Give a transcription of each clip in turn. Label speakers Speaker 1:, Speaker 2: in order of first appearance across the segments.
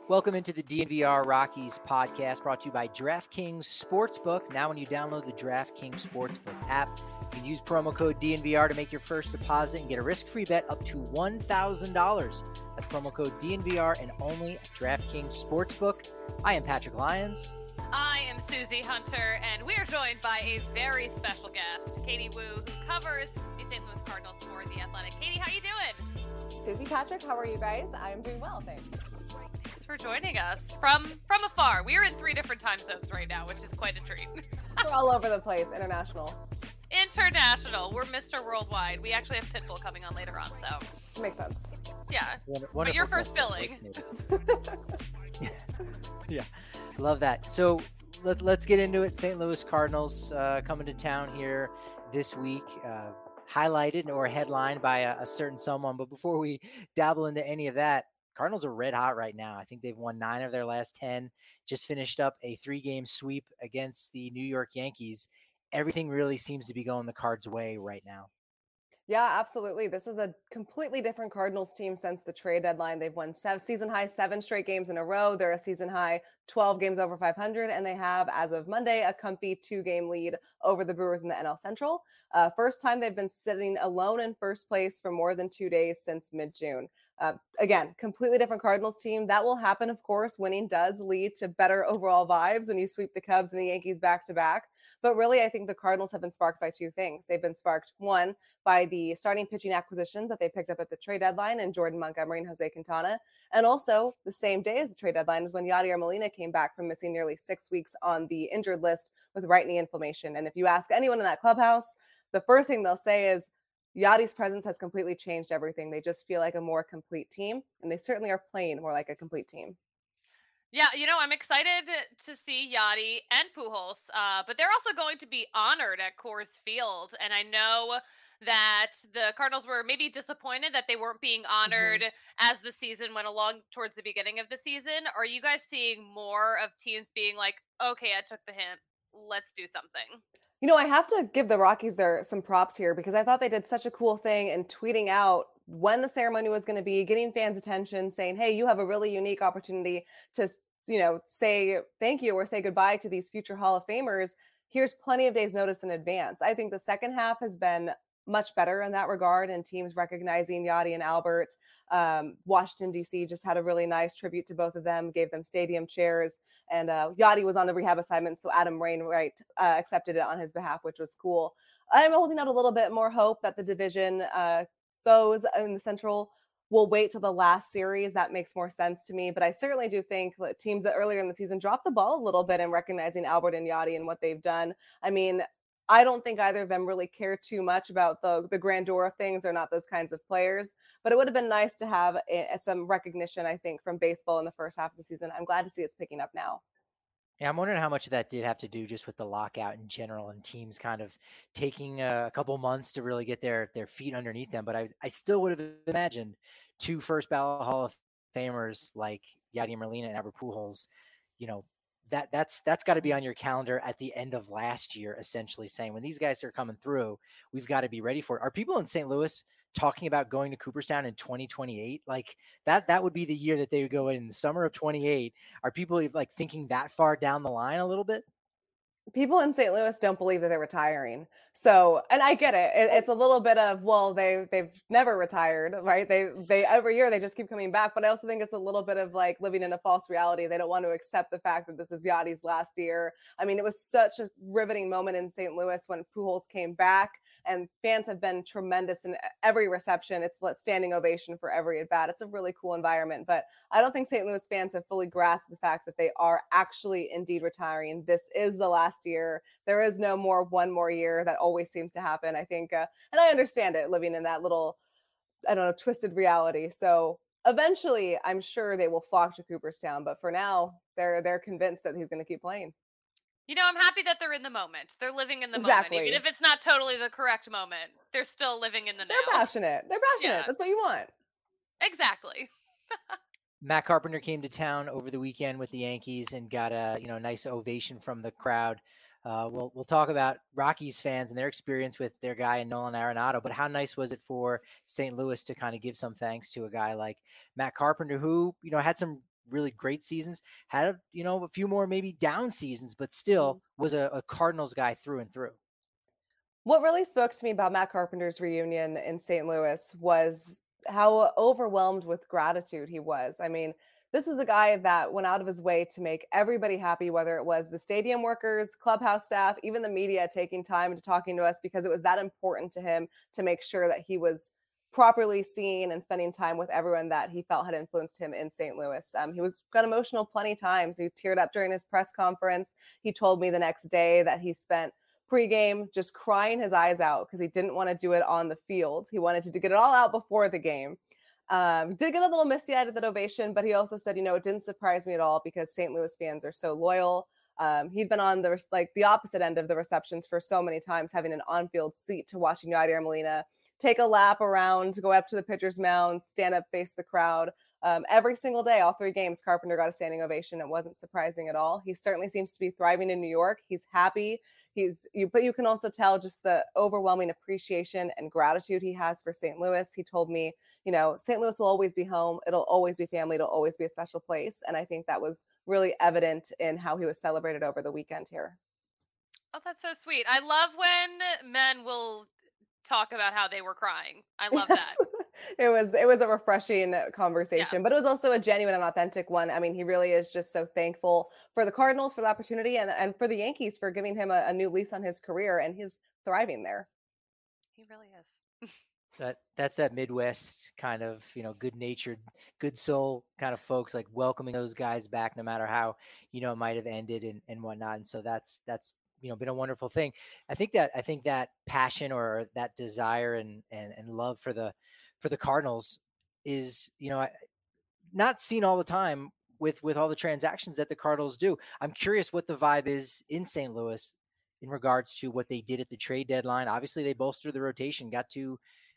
Speaker 1: Welcome into the DNVR Rockies podcast brought to you by DraftKings Sportsbook. Now when you download the DraftKings Sportsbook app, you can use promo code DNVR to make your first deposit and get a risk-free bet up to $1,000. That's promo code DNVR and only at DraftKings Sportsbook. I am Patrick Lyons.
Speaker 2: I am Susie Hunter, and we are joined by a very special guest, Katie Woo, who covers the St. Louis Cardinals for The Athletic. Katie, how you doing?
Speaker 3: Susie, Patrick, how are you guys? I'm doing well, thanks.
Speaker 2: Thanks for joining us from afar. We are in 3 different time zones right now, which is quite a treat.
Speaker 3: We're all over the place, international.
Speaker 2: International. We're Mr. Worldwide. We actually have Pitbull coming on later on, so.
Speaker 3: Makes sense.
Speaker 2: Yeah. But your first billing.
Speaker 1: Yeah. Love that. So let's get into it. St. Louis Cardinals coming to town here this week, highlighted or headlined by a certain someone. But before we dabble into any of that, Cardinals are red hot right now. I think they've won 9 of their last 10, just finished up a 3-game sweep against the New York Yankees. Everything really seems to be going the Cards' way right now.
Speaker 3: Yeah, absolutely. This is a completely different Cardinals team since the trade deadline. They've won season high 7 straight games in a row. They're a season high 12 games over 500, and they have, as of Monday, a comfy 2-game lead over the Brewers in the NL Central. First time they've been sitting alone in first place for more than 2 days since mid-June. Again, completely different Cardinals team. That will happen, of course. Winning does lead to better overall vibes when you sweep the Cubs and the Yankees back to back. But really, I think the Cardinals have been sparked by 2 things. They've been sparked, one, by the starting pitching acquisitions that they picked up at the trade deadline in Jordan Montgomery and Jose Quintana. And also, the same day as the trade deadline is when Yadier Molina came back from missing nearly 6 weeks on the injured list with right knee inflammation. And if you ask anyone in that clubhouse, the first thing they'll say is, Yadi's presence has completely changed everything. They just feel like a more complete team, and they certainly are playing more like a complete team.
Speaker 2: Yeah, I'm excited to see Yadi and Pujols, but they're also going to be honored at Coors Field, and I know that the Cardinals were maybe disappointed that they weren't being honored as the season went along towards the beginning of the season. Are you guys seeing more of teams being like, okay, I took the hint, let's do something?
Speaker 3: I have to give the Rockies some props here because I thought they did such a cool thing in tweeting out when the ceremony was going to be, getting fans' attention, saying, hey, you have a really unique opportunity to, say thank you or say goodbye to these future Hall of Famers. Here's plenty of days notice in advance. I think the second half has been much better in that regard, and teams recognizing Yadi and Albert. Washington, D.C. just had a really nice tribute to both of them, gave them stadium chairs, and Yadi was on a rehab assignment, so Adam Wainwright accepted it on his behalf, which was cool. I'm holding out a little bit more hope that the division goes in the Central will wait till the last series. That makes more sense to me, but I certainly do think that teams that earlier in the season dropped the ball a little bit in recognizing Albert and Yadi and what they've done. I mean, I don't think either of them really care too much about the grandeur of things. They're not those kinds of players, but it would have been nice to have some recognition, I think, from baseball in the first half of the season. I'm glad to see it's picking up now.
Speaker 1: Yeah, I'm wondering how much of that did have to do just with the lockout in general and teams kind of taking a couple months to really get their feet underneath them. But I still would have imagined 2 first ballot Hall of Famers like Yadier Molina and Albert Pujols, that's got to be on your calendar at the end of last year, essentially saying when these guys are coming through, we've got to be ready for it. Are people in St. Louis talking about going to Cooperstown in 2028? Like that would be the year that they would go in the summer of 28. Are people like thinking that far down the line a little bit?
Speaker 3: People in St. Louis don't believe that they're retiring. So, and I get it. It's a little bit of, well, they've never retired, right? They every year they just keep coming back. But I also think it's a little bit of like living in a false reality. They don't want to accept the fact that this is Yadi's last year. I mean, it was such a riveting moment in St. Louis when Pujols came back, and fans have been tremendous in every reception. It's a standing ovation for every at bat. It's a really cool environment. But I don't think St. Louis fans have fully grasped the fact that they are actually indeed retiring. This is the last year. There is no more one more year. That always seems to happen, I think. And I understand it, living in that little, twisted reality. So eventually, I'm sure they will flock to Cooperstown. But for now, they're convinced that he's going to keep playing.
Speaker 2: I'm happy that they're in the moment. They're living in the
Speaker 3: Exactly.
Speaker 2: moment. Even if it's not totally the correct moment, they're still living in the now.
Speaker 3: They're passionate. Yeah. That's what you want.
Speaker 2: Exactly.
Speaker 1: Matt Carpenter came to town over the weekend with the Yankees and got a nice ovation from the crowd. We'll talk about Rockies fans and their experience with their guy Nolan Arenado, but how nice was it for St. Louis to kind of give some thanks to a guy like Matt Carpenter, who had some really great seasons, had, a few more maybe down seasons, but still was a Cardinals guy through and through.
Speaker 3: What really spoke to me about Matt Carpenter's reunion in St. Louis was how overwhelmed with gratitude he was. I mean, this was a guy that went out of his way to make everybody happy, whether it was the stadium workers, clubhouse staff, even the media taking time to talking to us because it was that important to him to make sure that he was properly seen and spending time with everyone that he felt had influenced him in St. Louis. He got emotional plenty times. He teared up during his press conference. He told me the next day that he spent pregame just crying his eyes out because he didn't want to do it on the field. He wanted to get it all out before the game. Did get a little misty-eyed at the ovation, but he also said, it didn't surprise me at all because St. Louis fans are so loyal. He'd been on the opposite end of the receptions for so many times, having an on-field seat to watching Yadier Molina take a lap around, go up to the pitcher's mound, stand up, face the crowd. Every single day, all 3 games, Carpenter got a standing ovation. It wasn't surprising at all. He certainly seems to be thriving in New York. He's happy. But you can also tell just the overwhelming appreciation and gratitude he has for St. Louis. He told me, St. Louis will always be home. It'll always be family. It'll always be a special place. And I think that was really evident in how he was celebrated over the weekend here.
Speaker 2: Oh, that's so sweet. I love when men will talk about how they were crying. I love that.
Speaker 3: It was a refreshing conversation, but it was also a genuine and authentic one. I mean, he really is just so thankful for the Cardinals for the opportunity and for the Yankees for giving him a new lease on his career, and he's thriving there.
Speaker 2: He really is.
Speaker 1: That's that Midwest kind of, good-natured, good soul kind of folks, like welcoming those guys back no matter how, it might have ended and whatnot. And so that's been a wonderful thing. I think that passion or that desire and love for the Cardinals is, not seen all the time with all the transactions that the Cardinals do. I'm curious what the vibe is in St. Louis in regards to what they did at the trade deadline. Obviously they bolstered the rotation, got two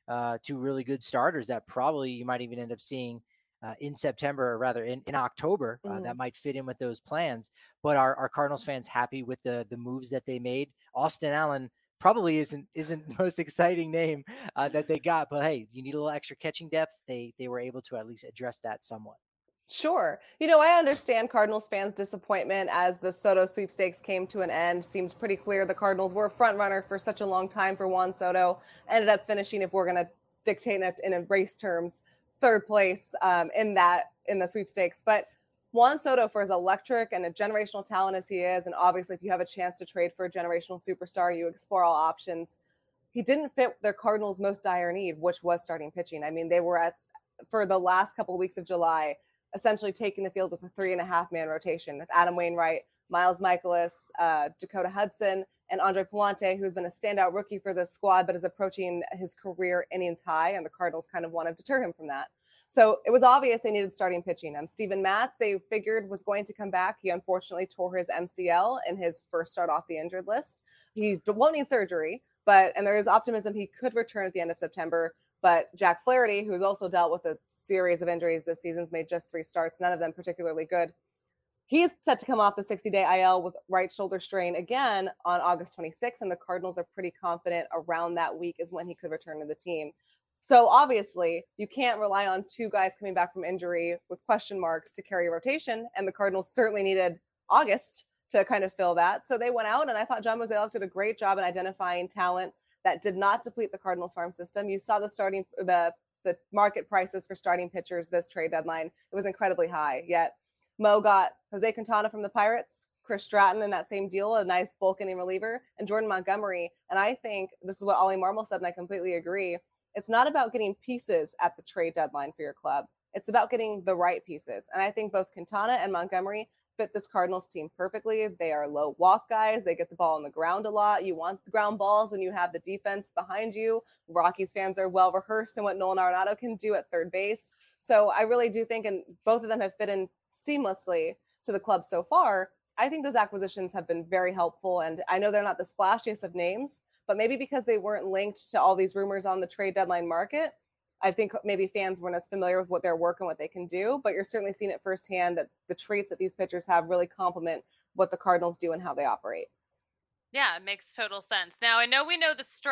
Speaker 1: really good starters that probably you might even end up seeing in September, or rather in October, that might fit in with those plans. But are Cardinals fans happy with the moves that they made? Austin Allen probably isn't the most exciting name that they got, but hey, you need a little extra catching depth. They were able to at least address that somewhat.
Speaker 3: Sure. I understand Cardinals fans' disappointment as the Soto sweepstakes came to an end. Seemed pretty clear the Cardinals were a front runner for such a long time for Juan Soto. Ended up finishing, if we're going to dictate it in race terms, 3rd place in the sweepstakes. But Juan Soto, for as electric and a generational talent as he is, and obviously if you have a chance to trade for a generational superstar, you explore all options. He didn't fit their Cardinals' most dire need, which was starting pitching. I mean, they were for the last couple of weeks of July, essentially taking the field with a 3.5-man rotation with Adam Wainwright, Miles Michaelis, Dakota Hudson, and Andre Pallante, who's been a standout rookie for this squad, but is approaching his career innings high, and the Cardinals kind of want to deter him from that. So it was obvious they needed starting pitching. Steven Matz, they figured, was going to come back. He unfortunately tore his MCL in his first start off the injured list. He won't need surgery, and there is optimism he could return at the end of September. But Jack Flaherty, who's also dealt with a series of injuries this season, has made just 3 starts, none of them particularly good. He's set to come off the 60-day IL with right shoulder strain again on August 26th, and the Cardinals are pretty confident around that week is when he could return to the team. So obviously, you can't rely on 2 guys coming back from injury with question marks to carry a rotation, and the Cardinals certainly needed August to kind of fill that. So they went out, and I thought John Mozeliak did a great job in identifying talent that did not deplete the Cardinals farm system. You saw the market prices for starting pitchers this trade deadline. It was incredibly high. Yet Mo got Jose Quintana from the Pirates, Chris Stratton in that same deal, a nice bulk inning reliever, and Jordan Montgomery. And I think this is what Ollie Marmol said, and I completely agree. It's not about getting pieces at the trade deadline for your club. It's about getting the right pieces. And I think both Quintana and Montgomery fit this Cardinals team perfectly. They are low walk guys. They get the ball on the ground a lot. You want the ground balls when you have the defense behind you. Rockies fans are well rehearsed in what Nolan Arenado can do at third base. So I really do think, and both of them have fit in seamlessly to the club so far. I think those acquisitions have been very helpful. And I know they're not the splashiest of names, but maybe because they weren't linked to all these rumors on the trade deadline market, I think maybe fans weren't as familiar with what their work and what they can do, but you're certainly seeing it firsthand that the traits that these pitchers have really complement what the Cardinals do and how they operate.
Speaker 2: Yeah, it makes total sense. Now, I know we know the strengths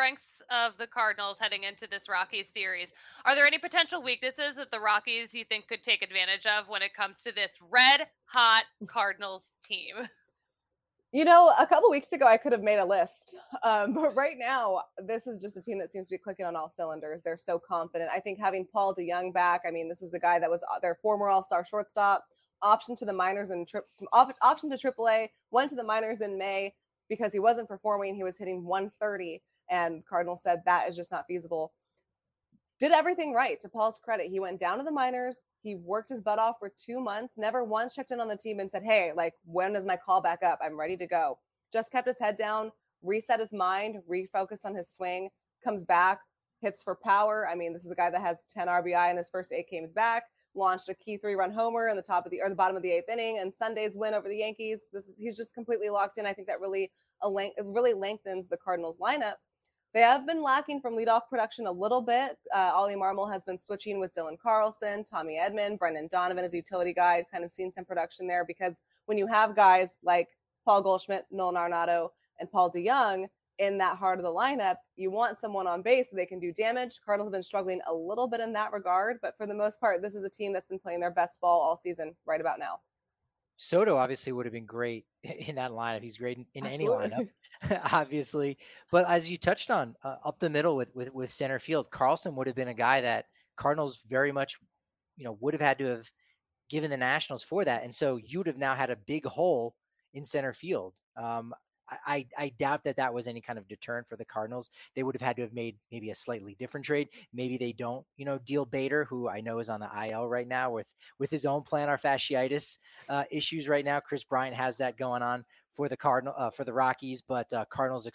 Speaker 2: of the Cardinals heading into this Rockies series. Are there any potential weaknesses that the Rockies you think could take advantage of when it comes to this red hot Cardinals team?
Speaker 3: You know, a couple weeks ago, I could have made a list. But right now, this is just a team that seems to be clicking on all cylinders. They're so confident. I think having Paul DeJong back, I mean, this is the guy that was their former all-star shortstop, option to the minors and option to AAA, went to the minors in May because he wasn't performing. He was hitting 130, and Cardinals said that is just not feasible. Did everything right, to Paul's credit. He went down to the minors. He worked his butt off for 2 months, never once checked in on the team and said, hey, like, when is my call back up? I'm ready to go. Just kept his head down, reset his mind, refocused on his swing, comes back, hits for power. I mean, this is a guy that has 10 RBI in his first 8 games back, launched a key 3-run homer in the bottom of the 8th inning, and Sunday's win over the Yankees. He's just completely locked in. I think that really lengthens the Cardinals lineup. They have been lacking from leadoff production a little bit. Ollie Marmol has been switching with Dylan Carlson, Tommy Edman, Brendan Donovan as a utility guy, kind of seen some production there because when you have guys like Paul Goldschmidt, Nolan Arenado, and Paul DeJong in that heart of the lineup, you want someone on base so they can do damage. Cardinals have been struggling a little bit in that regard, but for the most part, this is a team that's been playing their best ball all season right about now.
Speaker 1: Soto obviously would have been great in that lineup. He's great in any lineup, obviously. But as you touched on, up the middle with center field, Carlson would have been a guy that Cardinals very much, would have had to have given the Nationals for that. And so you would have now had a big hole in center field. I doubt that was any kind of deterrent for the Cardinals. They would have had to have made maybe a slightly different trade. Maybe they don't, deal Bader, who I know is on the IL right now with his own plantar fasciitis issues right now. Chris Bryant has that going on for the for the Rockies, but Cardinals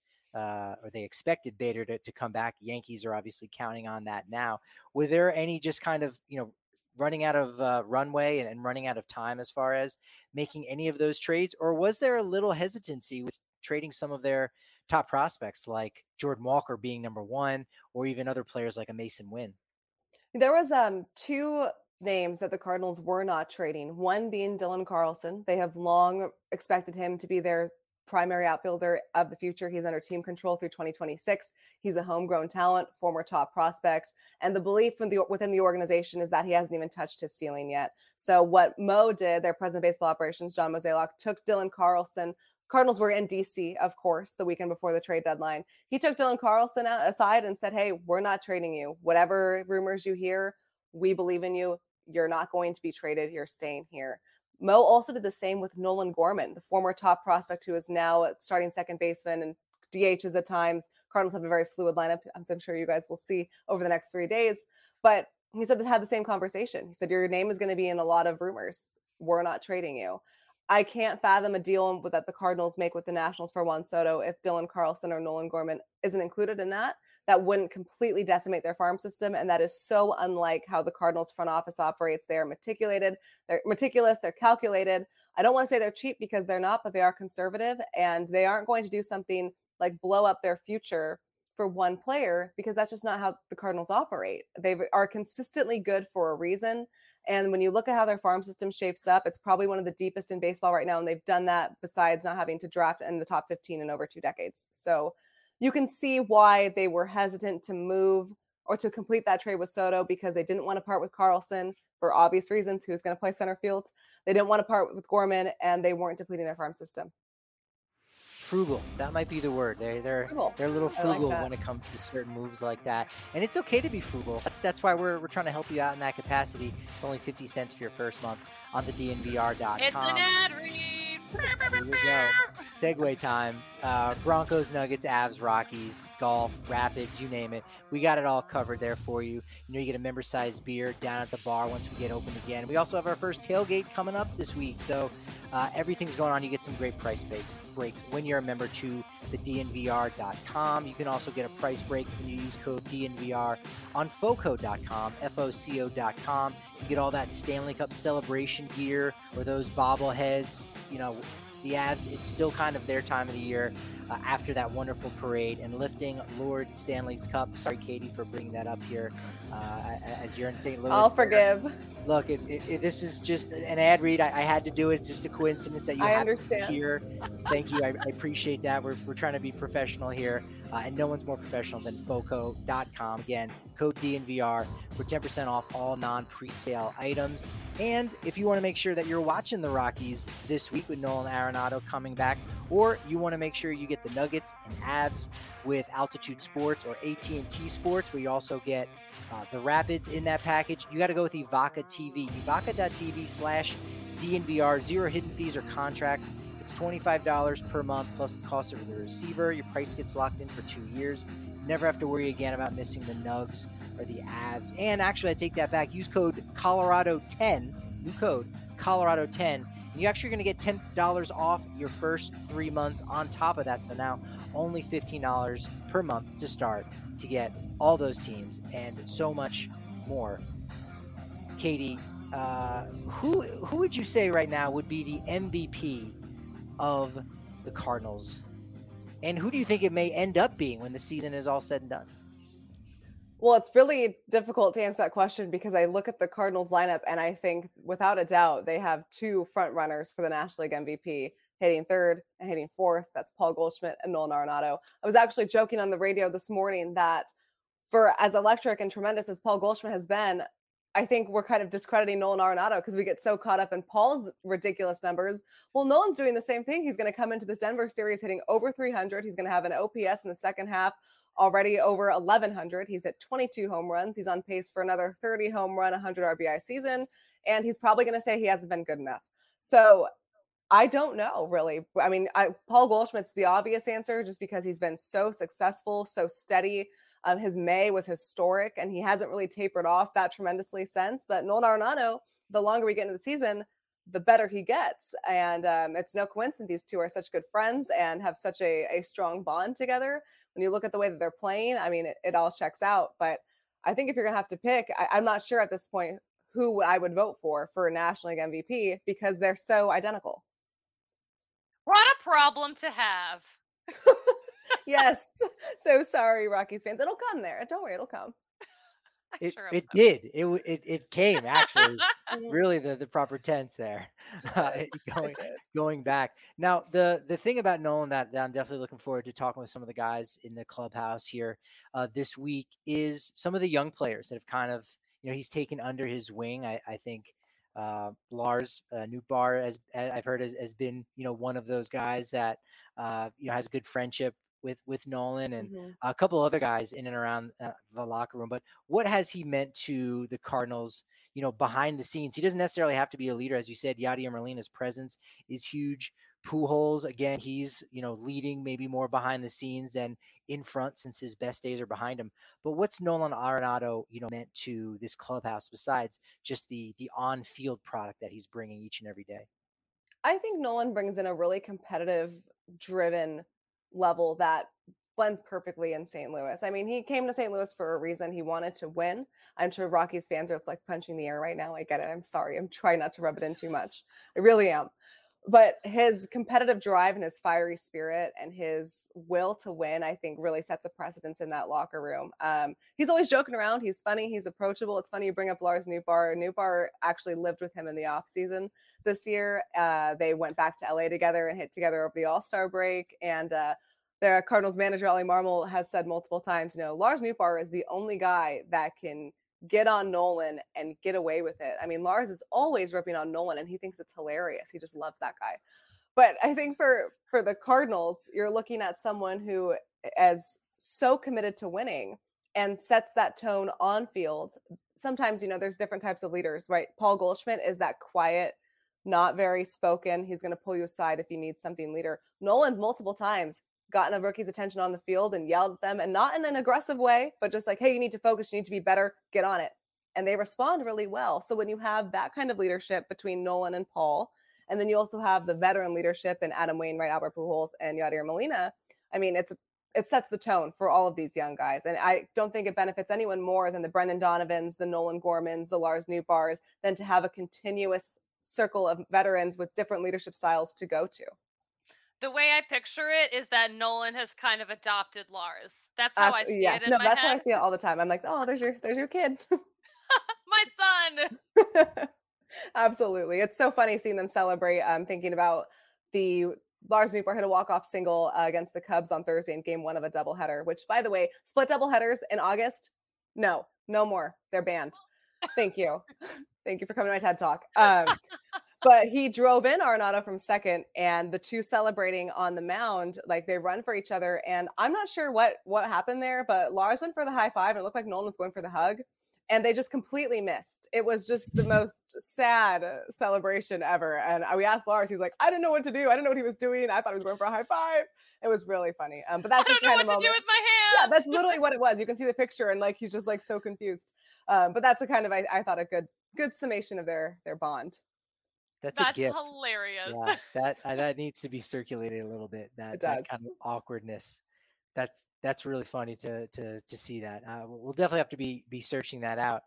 Speaker 1: they expected Bader to come back. Yankees are obviously counting on that now. Were there any just kind of, running out of runway and running out of time as far as making any of those trades? Or was there a little hesitancy with trading some of their top prospects like Jordan Walker being number one, or even other players like a Mason Wynn?
Speaker 3: There was 2 names that the Cardinals were not trading, one being Dylan Carlson. They have long expected him to be their primary outfielder of the future. He's under team control through 2026. He's a homegrown talent, former top prospect. And the belief within the organization is that he hasn't even touched his ceiling yet. So what Mo did, their president of baseball operations, John Mozeliak, took Dylan Carlson. Cardinals were in DC, of course, the weekend before the trade deadline. He took Dylan Carlson aside and said, hey, we're not trading you. Whatever rumors you hear, we believe in you. You're not going to be traded. You're staying here. Mo also did the same with Nolan Gorman, the former top prospect who is now starting second baseman and DHs at times. Cardinals have a very fluid lineup, as I'm sure you guys will see over the next 3 days. But he said they had the same conversation. He said, your name is going to be in a lot of rumors. We're not trading you. I can't fathom a deal that the Cardinals make with the Nationals for Juan Soto if Dylan Carlson or Nolan Gorman isn't included in that. That wouldn't completely decimate their farm system. And that is so unlike how the Cardinals front office operates. They are meticulous, they're calculated. I don't want to say they're cheap because they're not, but they are conservative, and they aren't going to do something like blow up their future for one player, because that's just not how the Cardinals operate. They are consistently good for a reason. And when you look at how their farm system shapes up, it's probably one of the deepest in baseball right now. And they've done that besides not having to draft in the top 15 in over 2 decades. So you can see why they were hesitant to move or to complete that trade with Soto, because they didn't want to part with Carlson for obvious reasons, who's going to play center field. They didn't want to part with Gorman, and they weren't depleting their farm system.
Speaker 1: Frugal. That might be the word. They're a little frugal when it comes to certain moves like that. And it's okay to be frugal. That's why we're trying to help you out in that capacity. It's only 50 cents for your first month on the DNVR.com.
Speaker 2: It's an ad read.
Speaker 1: Here we go. Segue time. Broncos, Nuggets, Avs, Rockies, golf, Rapids, you name it. We got it all covered there for you. You get a member-sized beer down at the bar once we get open again. We also have our first tailgate coming up this week. So everything's going on. You get some great price breaks when you're a member to the DNVR.com. You can also get a price break when you use code DNVR on FOCO.com, FOCO.com. You get all that Stanley Cup celebration gear or those bobbleheads. The Avs, it's still kind of their time of the year after that wonderful parade and lifting Lord Stanley's Cup. Sorry, Katie, for bringing that up here as you're in St. Louis.
Speaker 3: I'll forgive.
Speaker 1: Look, this is just an ad read. I had to do it. It's just a coincidence that you
Speaker 3: I
Speaker 1: have
Speaker 3: understand.
Speaker 1: here. Thank you. I appreciate that. We're trying to be professional here, and no one's more professional than Foco.com. Again, code DNVR for 10% off all non-presale items. And if you want to make sure that you're watching the Rockies this week with Nolan Arenado coming back, or you want to make sure you get the Nuggets and Avs with Altitude Sports or AT&T Sports, where you also get the Rapids in that package, you got to go with Evoca TV. Evoca.tv/DNVR. 0 hidden fees or contracts. It's $25 per month plus the cost of the receiver. Your price gets locked in for 2 years. You never have to worry again about missing the Nugs or the Avs. And actually, I take that back. Use code Colorado10, new code Colorado10. You're actually going to get $10 off your first 3 months on top of that. So now only $15 per month to start to get all those teams and so much more. Katie, who would you say right now would be the MVP of the Cardinals? And who do you think it may end up being when the season is all said and done?
Speaker 3: Well, it's really difficult to answer that question because I look at the Cardinals lineup and I think without a doubt they have 2 front runners for the National League MVP, hitting third and hitting fourth. That's Paul Goldschmidt and Nolan Arenado. I was actually joking on the radio this morning that for as electric and tremendous as Paul Goldschmidt has been, I think we're kind of discrediting Nolan Arenado because we get so caught up in Paul's ridiculous numbers. Well, Nolan's doing the same thing. He's going to come into this Denver series hitting over 300. He's going to have an OPS in the second half already over 1,100. He's at 22 home runs. He's on pace for another 30 home run, 100 RBI season. And he's probably going to say he hasn't been good enough. So I don't know, really. I mean, Paul Goldschmidt's the obvious answer just because he's been so successful, so steady. His May was historic, and he hasn't really tapered off that tremendously since. But Nolan Arenado, the longer we get into the season, the better he gets. And it's no coincidence these two are such good friends and have such a strong bond together. When you look at the way that they're playing, I mean, it all checks out. But I think if you're going to have to pick, I'm not sure at this point who I would vote for a National League MVP because they're so identical.
Speaker 2: What a problem to have.
Speaker 3: Yes. So sorry, Rockies fans. It'll come there. Don't worry, it'll come.
Speaker 1: It did. It came, actually. Really the proper tense there. Going back. Now, the thing about Nolan that I'm definitely looking forward to talking with some of the guys in the clubhouse here this week is some of the young players that have kind of, he's taken under his wing. I think Lars Nootbaar, as I've heard, has been, one of those guys that, has a good friendship with Nolan and a couple other guys in and around the locker room. But what has he meant to the Cardinals, behind the scenes? He doesn't necessarily have to be a leader. As you said, Yadier Molina's presence is huge. Pujols, again, he's, leading maybe more behind the scenes than in front since his best days are behind him. But what's Nolan Arenado, meant to this clubhouse besides just the on-field product that he's bringing each and every day?
Speaker 3: I think Nolan brings in a really competitive, driven level that blends perfectly in St. Louis. I mean, he came to St. Louis for a reason. He wanted to win. I'm sure Rockies fans are like punching the air right now. I get it. I'm sorry. I'm trying not to rub it in too much. I really am. But his competitive drive and his fiery spirit and his will to win, I think, really sets a precedence in that locker room. He's always joking around. He's funny. He's approachable. It's funny you bring up Lars Nootbaar. Nootbaar actually lived with him in the offseason this year. They went back to LA together and hit together over the All-Star break. And their Cardinals manager, Ollie Marmol, has said multiple times, Lars Nootbaar is the only guy that can get on Nolan and get away with it. I mean, Lars is always ripping on Nolan and he thinks it's hilarious. He just loves that guy. But I think for the Cardinals, you're looking at someone who is so committed to winning and sets that tone on field. Sometimes, there's different types of leaders, right? Paul Goldschmidt is that quiet, not very spoken. He's going to pull you aside if you need something leader. Nolan's multiple times gotten a rookie's attention on the field and yelled at them, and not in an aggressive way, but just like, hey, you need to focus, you need to be better, get on it. And they respond really well. So when you have that kind of leadership between Nolan and Paul, and then you also have the veteran leadership in Adam Wainwright, Albert Pujols, and Yadier Molina, I mean, it sets the tone for all of these young guys. And I don't think it benefits anyone more than the Brendan Donovans, the Nolan Gormans, the Lars Nootbaars, than to have a continuous circle of veterans with different leadership styles to go to.
Speaker 2: The way I picture it is that Nolan has kind of adopted Lars. That's how I see it in my
Speaker 3: that's
Speaker 2: head.
Speaker 3: how I see it all the time. I'm like, oh, there's your kid.
Speaker 2: My son.
Speaker 3: Absolutely. It's so funny seeing them celebrate. Thinking about the Lars Nootbaar hit a walk-off single against the Cubs on Thursday in game 1 of a doubleheader, which, by the way, split doubleheaders in August? No, no more. They're banned. Thank you. Thank you for coming to my TED Talk. But he drove in Arenado from second, and the two celebrating on the mound, like they run for each other. And I'm not sure what happened there, but Lars went for the high five, and it looked like Nolan was going for the hug, and they just completely missed. It was just the most sad celebration ever. And we asked Lars, he's like, I didn't know what to do. I didn't know what he was doing. I thought he was going for a high five. It was really funny. But that's just kind of
Speaker 2: what to do with my hands.
Speaker 3: Yeah, that's literally what it was. You can see the picture, and like he's just like so confused. But that's a kind of I thought a good summation of their bond.
Speaker 1: That's a gift.
Speaker 2: Hilarious.
Speaker 1: Yeah, that needs to be circulated a little bit. That kind of awkwardness. That's really funny to see that. We'll definitely have to be searching that out.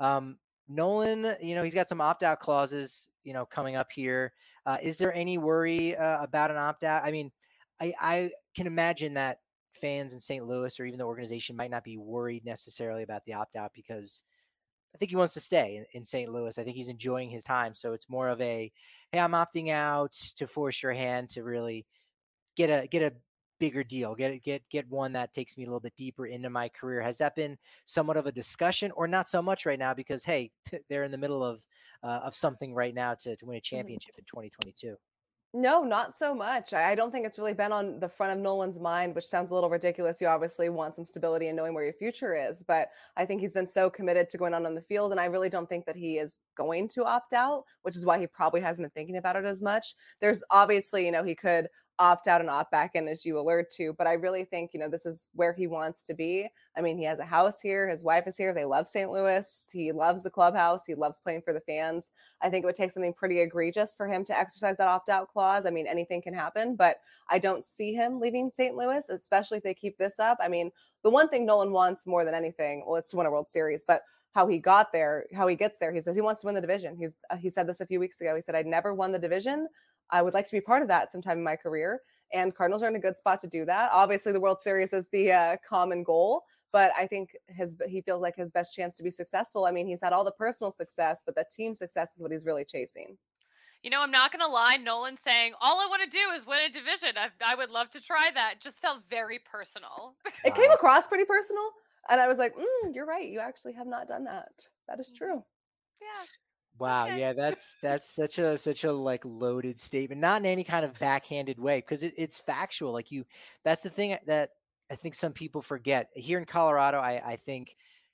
Speaker 1: Nolan, he's got some opt-out clauses, coming up here. Is there any worry about an opt-out? I mean, I can imagine that fans in St. Louis or even the organization might not be worried necessarily about the opt-out because I think he wants to stay in St. Louis. I think he's enjoying his time. So it's more of a, hey, I'm opting out to force your hand to really get a bigger deal, get one that takes me a little bit deeper into my career. Has that been somewhat of a discussion, or not so much right now because hey, they're in the middle of something right now to win a championship in 2022?
Speaker 3: No, not so much. I don't think it's really been on the front of Nolan's mind, which sounds a little ridiculous. You obviously want some stability and knowing where your future is, but I think he's been so committed to going on the field, and I really don't think that he is going to opt out, which is why he probably hasn't been thinking about it as much. There's obviously, he could opt out and opt back in, as you allude to, but I really think, this is where he wants to be. I mean, he has a house here. His wife is here. They love St. Louis. He loves the clubhouse. He loves playing for the fans. I think it would take something pretty egregious for him to exercise that opt-out clause. I mean, anything can happen, but I don't see him leaving St. Louis, especially if they keep this up. I mean, the one thing Nolan wants more than anything, well, it's to win a World Series, but how he got there, how he gets there, he says he wants to win the division. He said this a few weeks ago. He said, I'd never won the division. I would like to be part of that sometime in my career. And Cardinals are in a good spot to do that. Obviously, the World Series is the common goal, but I think he feels like his best chance to be successful. I mean, he's had all the personal success, but the team success is what he's really chasing.
Speaker 2: I'm not going to lie. Nolan saying, all I want to do is win a division. I would love to try that. Just felt very personal.
Speaker 3: It came across pretty personal. And I was like, you're right. You actually have not done that. That is true.
Speaker 2: Yeah.
Speaker 1: Wow. Okay. Yeah, that's such a like loaded statement, not in any kind of backhanded way, because it's factual. Like that's the thing that I think some people forget. Here in Colorado, I think,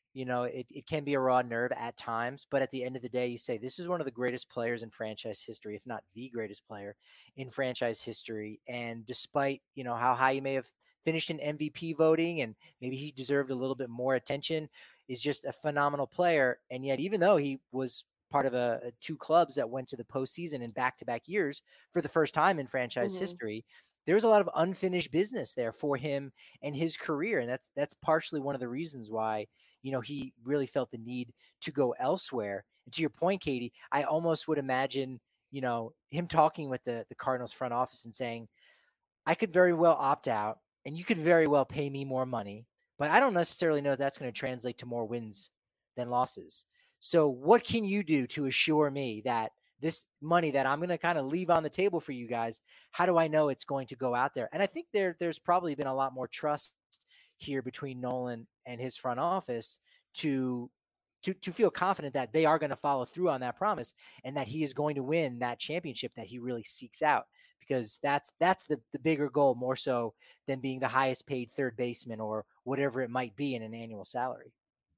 Speaker 1: it can be a raw nerve at times, but at the end of the day, you say this is one of the greatest players in franchise history, if not the greatest player in franchise history. And despite, how high you may have finished in MVP voting and maybe he deserved a little bit more attention, is just a phenomenal player. And yet, even though he was part of two clubs that went to the postseason in back-to-back years for the first time in franchise history, there was a lot of unfinished business there for him and his career. And that's partially one of the reasons why, he really felt the need to go elsewhere. And to your point, Katie, I almost would imagine, him talking with the Cardinals front office and saying, I could very well opt out and you could very well pay me more money, but I don't necessarily know if that's going to translate to more wins than losses. So what can you do to assure me that this money that I'm going to kind of leave on the table for you guys, how do I know it's going to go out there? And I think there's probably been a lot more trust here between Nolan and his front office to feel confident that they are going to follow through on that promise and that he is going to win that championship that he really seeks out, because that's the bigger goal, more so than being the highest paid third baseman or whatever it might be in an annual salary.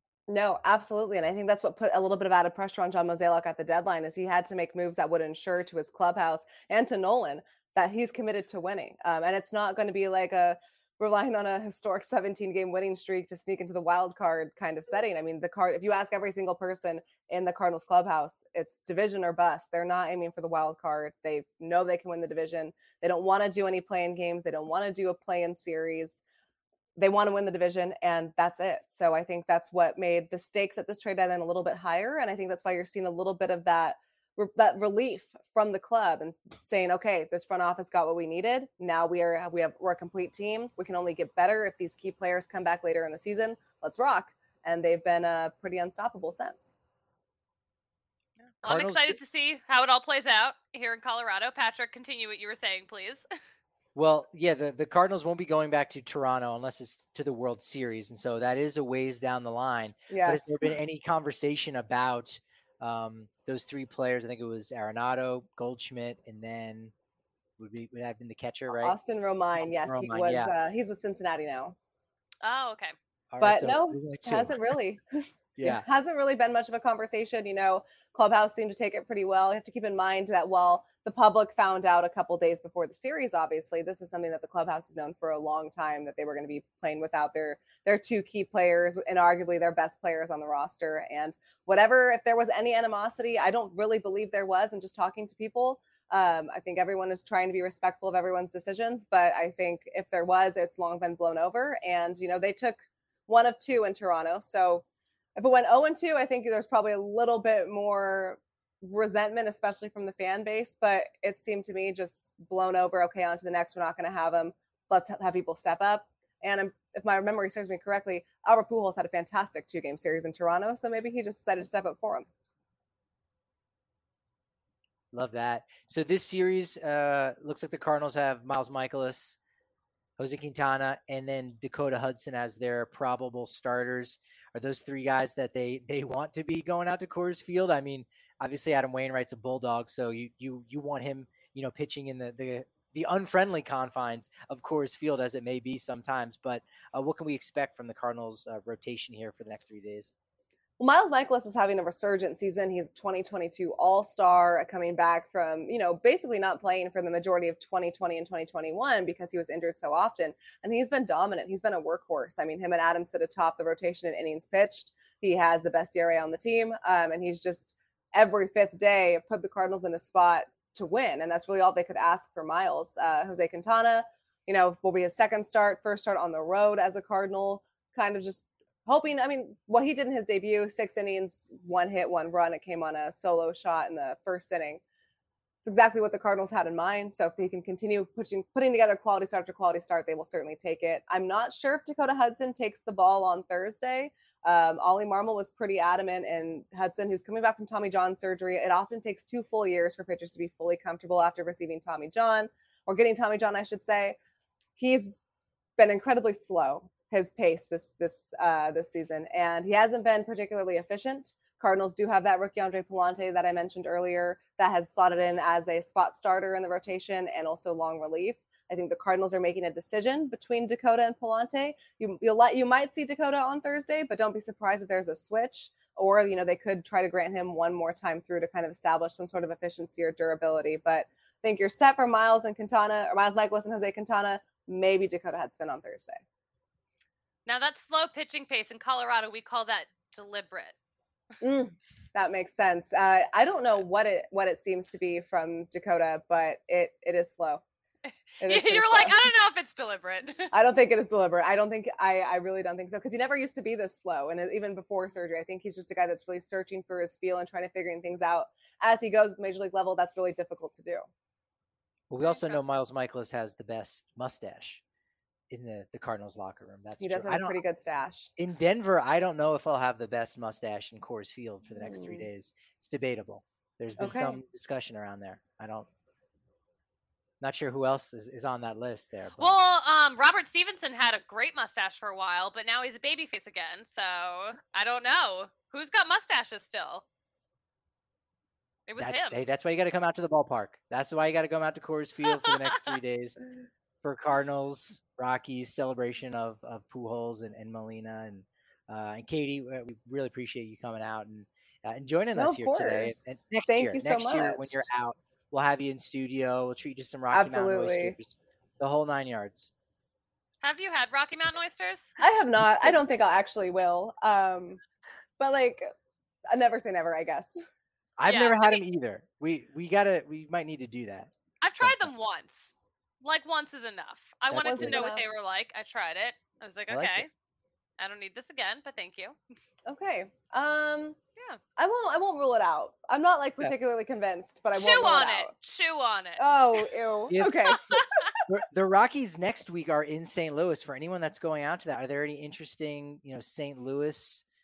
Speaker 3: No, absolutely. And I think that's what put a little bit of added pressure on John Mozeliak at the deadline, is he had to make moves that would ensure to his clubhouse and to Nolan that he's committed to winning. And it's not going to be like relying on a historic 17-game winning streak to sneak into the wild card kind of setting. I mean, if you ask every single person in the Cardinals clubhouse, it's division or bust. They're not aiming for the wild card. They know they can win the division. They don't want to do any play-in games. They don't want to do a play-in series. They want to win the division, and that's it. So I think that's what made the stakes at this trade deadline a little bit higher. And I think that's why you're seeing a little bit of that relief from the club and saying, okay, this front office got what we needed. Now we're a complete team. We can only get better if these key players come back later in the season. Let's rock. And they've been pretty unstoppable since.
Speaker 2: I'm excited to see how it all plays out here in Colorado. Patrick, continue what you were saying, please.
Speaker 1: Well, yeah, the Cardinals won't be going back to Toronto unless it's to the World Series, and so that is a ways down the line. But has there
Speaker 3: Yes.
Speaker 1: been any conversation about those three players? I think it was Arenado, Goldschmidt, and then would that have been the catcher, right?
Speaker 3: Austin Romine. Yes, he
Speaker 1: Romine,
Speaker 3: was.
Speaker 1: yeah.
Speaker 3: He's with Cincinnati now.
Speaker 2: Oh, okay.
Speaker 1: All right,
Speaker 3: But
Speaker 1: so
Speaker 3: no,
Speaker 1: there's only
Speaker 3: it
Speaker 1: two.
Speaker 3: hasn't really.
Speaker 1: Yeah.
Speaker 3: Hasn't really been much of a conversation. Clubhouse seemed to take it pretty well. You have to keep in mind that while the public found out a couple days before the series, obviously, this is something that the clubhouse has known for a long time, that they were going to be playing without their two key players and arguably their best players on the roster. And if there was any animosity, I don't really believe there was. And just talking to people, I think everyone is trying to be respectful of everyone's decisions. But I think if there was, it's long been blown over. And, they took 1 of 2 in Toronto. So if it went 0-2, I think there's probably a little bit more resentment, especially from the fan base. But it seemed to me just blown over. Okay, on to the next. We're not going to have them. Let's have people step up. And if my memory serves me correctly, Albert Pujols had a fantastic 2-game series in Toronto. So maybe he just decided to step up for him.
Speaker 1: Love that. So this series looks like the Cardinals have Miles Mikolas, Jose Quintana, and then Dakota Hudson as their probable starters. Are those three guys that they want to be going out to Coors Field? I mean, obviously Adam Wainwright's a Bulldog, so you want him, pitching in the unfriendly confines of Coors Field, as it may be sometimes. But what can we expect from the Cardinals rotation here for the next 3 days?
Speaker 3: Well, Miles Mikolas is having a resurgent season. He's a 2022 All-Star, coming back from, basically not playing for the majority of 2020 and 2021 because he was injured so often. And he's been dominant. He's been a workhorse. I mean, him and Adams sit atop the rotation in innings pitched. He has the best ERA on the team. And he's just every 5th day put the Cardinals in a spot to win. And that's really all they could ask for Miles. Jose Quintana, will be his first start on the road as a Cardinal, kind of just hoping. I mean, what he did in his debut, 6 innings, 1 hit, 1 run. It came on a solo shot in the first inning. It's exactly what the Cardinals had in mind. So if he can continue putting together quality start after quality start, they will certainly take it. I'm not sure if Dakota Hudson takes the ball on Thursday. Ollie Marmol was pretty adamant, and Hudson, who's coming back from Tommy John surgery, it often takes 2 full years for pitchers to be fully comfortable after receiving Tommy John, or getting Tommy John, I should say. He's been incredibly slow, his pace this season, and he hasn't been particularly efficient. Cardinals do have that rookie Andre Pallante that I mentioned earlier that has slotted in as a spot starter in the rotation and also long relief. I think the Cardinals are making a decision between Dakota and Pallante. You might see Dakota on Thursday, but don't be surprised if there's a switch, or they could try to grant him one more time through to kind of establish some sort of efficiency or durability. But I think you're set for Miles Mikolas and Jose Quintana, maybe Dakota Hudson on Thursday.
Speaker 2: Now, that slow pitching pace in Colorado, we call that deliberate.
Speaker 3: That makes sense. I don't know what it seems to be from Dakota, but it is slow.
Speaker 2: You're like, I don't know if it's deliberate.
Speaker 3: I don't think it is deliberate. I really don't think so, because he never used to be this slow. And even before surgery, I think he's just a guy that's really searching for his feel and trying to figure things out as he goes at the major league level. That's really difficult to do.
Speaker 1: Well, we also know Miles Mikolas has the best mustache in the Cardinals locker room.
Speaker 3: He does have a pretty good stash.
Speaker 1: In Denver, I don't know if I'll have the best mustache in Coors Field for the next 3 days. It's debatable. There's been some discussion around there. Not sure who else is on that list there. But.
Speaker 2: Well, Robert Stevenson had a great mustache for a while, but now he's a babyface again. So I don't know who's got mustaches still. It was him.
Speaker 1: Hey, that's why you got to come out to the ballpark. That's why you got to come out to Coors Field for the next 3 days for Cardinals Rockies celebration of Pujols and Molina and Katie. We really appreciate you coming out and joining us here today. And next year when you're out, we'll have you in studio. We'll treat you to some Rocky Mountain oysters, the whole 9 yards.
Speaker 2: Have you had Rocky Mountain oysters?
Speaker 3: I have not. I don't think I actually will. But I never say never, I guess.
Speaker 1: I've never had them either. We might need to do that.
Speaker 2: I've tried them once. Once is enough. I wanted to know what they were like. I tried it. I was like, okay, I don't need this again, but thank you.
Speaker 3: Okay. Yeah. I won't rule it out. I'm not particularly convinced, but I won't rule it out.
Speaker 2: Chew on it.
Speaker 3: Oh, ew. Okay.
Speaker 1: The Rockies next week are in St. Louis. For anyone that's going out to that, are there any interesting, St. Louis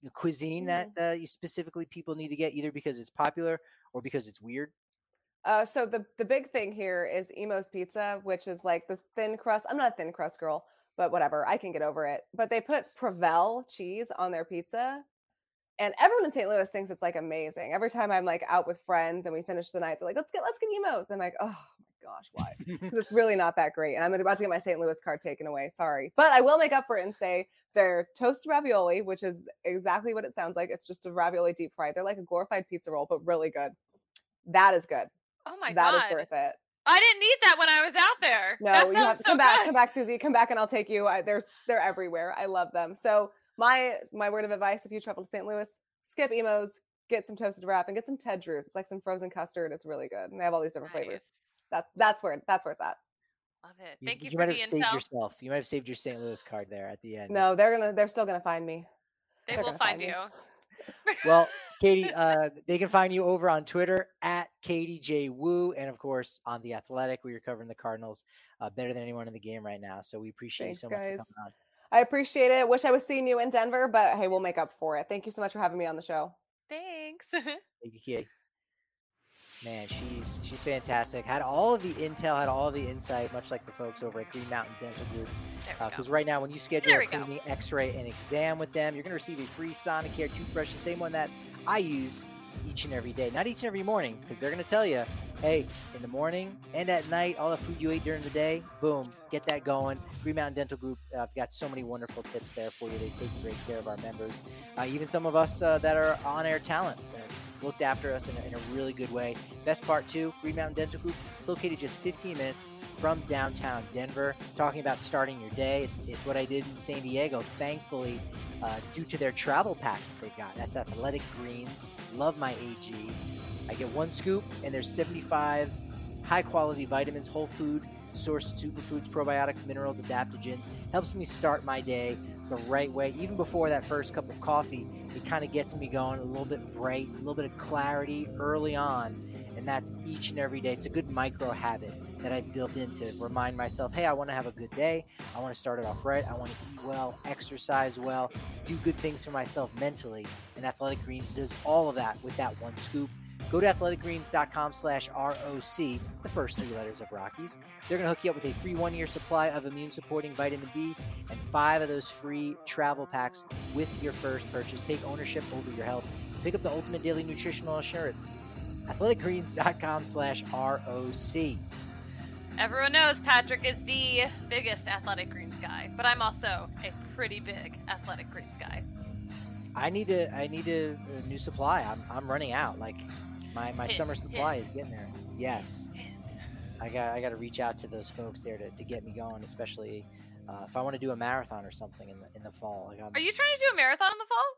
Speaker 1: cuisine that you specifically people need to get, either because it's popular or because it's weird?
Speaker 3: So the big thing here is Emo's Pizza, which is like this thin crust. I'm not a thin crust girl, but whatever, I can get over it. But they put Provel cheese on their pizza, and everyone in St. Louis thinks it's like amazing. Every time I'm like out with friends and we finish the night, they're like, let's get Emo's. And I'm like, oh my gosh, why? Because it's really not that great. And I'm about to get my St. Louis card taken away. Sorry. But I will make up for it and say they're toasted ravioli, which is exactly what it sounds like. It's just a ravioli deep fried. They're like a glorified pizza roll, but really good. That is good.
Speaker 2: Oh my
Speaker 3: That is
Speaker 2: God.
Speaker 3: worth it.
Speaker 2: I didn't need that when I was out there.
Speaker 3: No,
Speaker 2: That
Speaker 3: you
Speaker 2: sounds
Speaker 3: have to
Speaker 2: so
Speaker 3: come back.
Speaker 2: good.
Speaker 3: Come back, Susie. Come back and I'll take you. They're everywhere. I love them. So my word of advice, if you travel to St. Louis, skip Emo's, get some toasted wrap, and get some Ted Drews. It's like some frozen custard. It's really good. And they have all these different flavors. That's where it's at.
Speaker 2: Love it. Thank you
Speaker 1: You
Speaker 2: for
Speaker 1: might
Speaker 2: the
Speaker 1: have saved
Speaker 2: intel.
Speaker 1: yourself. You might have saved your St. Louis card there at the end.
Speaker 3: No, they're still gonna find me.
Speaker 2: They
Speaker 3: They're
Speaker 2: will
Speaker 3: gonna
Speaker 2: find
Speaker 3: me.
Speaker 2: you.
Speaker 1: Well, Katie, they can find you over on Twitter at Katie J. Wu, and of course on The Athletic, where you're covering the Cardinals better than anyone in the game right now. So we appreciate
Speaker 3: Thanks,
Speaker 1: you so much for
Speaker 3: guys.
Speaker 1: coming on.
Speaker 3: I appreciate it. Wish I was seeing you in Denver, but hey, we'll make up for it. Thank you so much for having me on the show.
Speaker 2: Thanks.
Speaker 1: Thank you, Katie. Man, she's fantastic. Had all of the intel, had all of the insight, much like the folks over at Green Mountain Dental Group. Because right now, when you schedule a cleaning, X-ray, and exam with them, you're going to receive a free Sonicare toothbrush, the same one that I use each and every day. Not each and every morning, because they're going to tell you, hey, in the morning and at night, all the food you ate during the day, boom, get that going. Green Mountain Dental Group, I've got so many wonderful tips there for you. They take great care of our members. Even some of us that are on-air talent looked after us in a really good way. Best part, too, Green Mountain Dental Group, it's located just 15 minutes from downtown Denver. Talking about starting your day, it's what I did in San Diego, thankfully, due to their travel pack that they've got. That's Athletic Greens. Love my AG. I get one scoop, and there's 75 high-quality vitamins, whole food, sourced superfoods, probiotics, minerals, adaptogens. Helps me start my day the right way. Even before that first cup of coffee, it kind of gets me going a little bit bright, a little bit of clarity early on. And that's each and every day. It's a good micro habit that I've built in to remind myself, hey, I want to have a good day. I want to start it off right. I want to eat well, exercise well, do good things for myself mentally. And Athletic Greens does all of that with that one scoop. Go to athleticgreens.com/ROC, the first three letters of Rockies. They're going to hook you up with a free 1-year supply of immune-supporting vitamin D and 5 of those free travel packs with your first purchase. Take ownership over your health. Pick up the ultimate daily nutritional assurance. athleticgreens.com/ROC.
Speaker 2: Everyone knows Patrick is the biggest Athletic Greens guy, but I'm also a pretty big Athletic Greens guy.
Speaker 1: I need a new supply. I'm running out. Like my summer supply is getting there. Yes. I got to reach out to those folks there to get me going, especially if I want to do a marathon or something in the fall. Like
Speaker 2: Are you trying to do a marathon in the fall?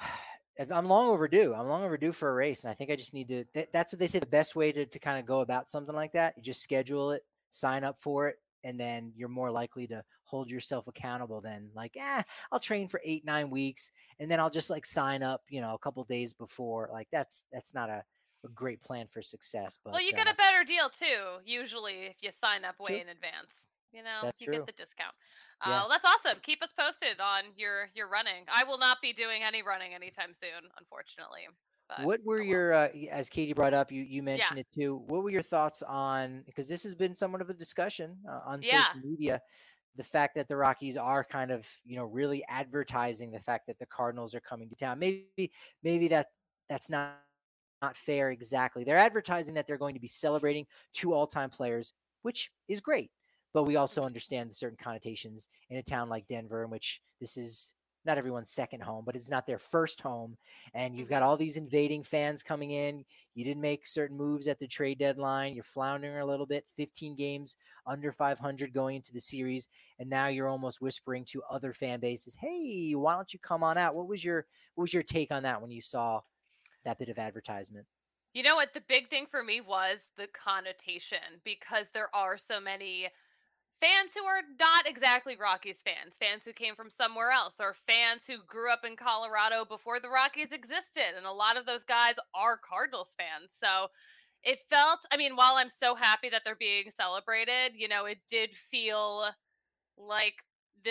Speaker 1: I'm long overdue. I'm long overdue for a race, and I think I just need to. That's what they say. The best way to kind of go about something like that, you just schedule it, sign up for it, and then you're more likely to hold yourself accountable than like, I'll train for 8-9 weeks, and then I'll just like sign up, a couple days before. Like that's not a great plan for success. But
Speaker 2: well, you get a better deal too. Usually, if you sign up way in advance,
Speaker 1: that's
Speaker 2: you
Speaker 1: true.
Speaker 2: get the discount.
Speaker 1: Yeah.
Speaker 2: Well, that's awesome. Keep us posted on your running. I will not be doing any running anytime soon, unfortunately. But,
Speaker 1: what were your, as Katie brought up, you mentioned it too. What were your thoughts on, because this has been somewhat of a discussion on social media, the fact that the Rockies are kind of, really advertising the fact that the Cardinals are coming to town. Maybe that's not fair exactly. They're advertising that they're going to be celebrating 2 all-time players, which is great. But we also understand the certain connotations in a town like Denver, in which this is not everyone's second home, but it's not their first home. And you've got all these invading fans coming in. You didn't make certain moves at the trade deadline. You're floundering a little bit, 15 games under 500 going into the series. And now you're almost whispering to other fan bases, hey, why don't you come on out? What was your take on that when you saw that bit of advertisement?
Speaker 2: You know what? The big thing for me was the connotation, because there are so many fans who are not exactly Rockies fans who came from somewhere else, or fans who grew up in Colorado before the Rockies existed. And a lot of those guys are Cardinals fans. So it felt, while I'm so happy that they're being celebrated, it did feel like this is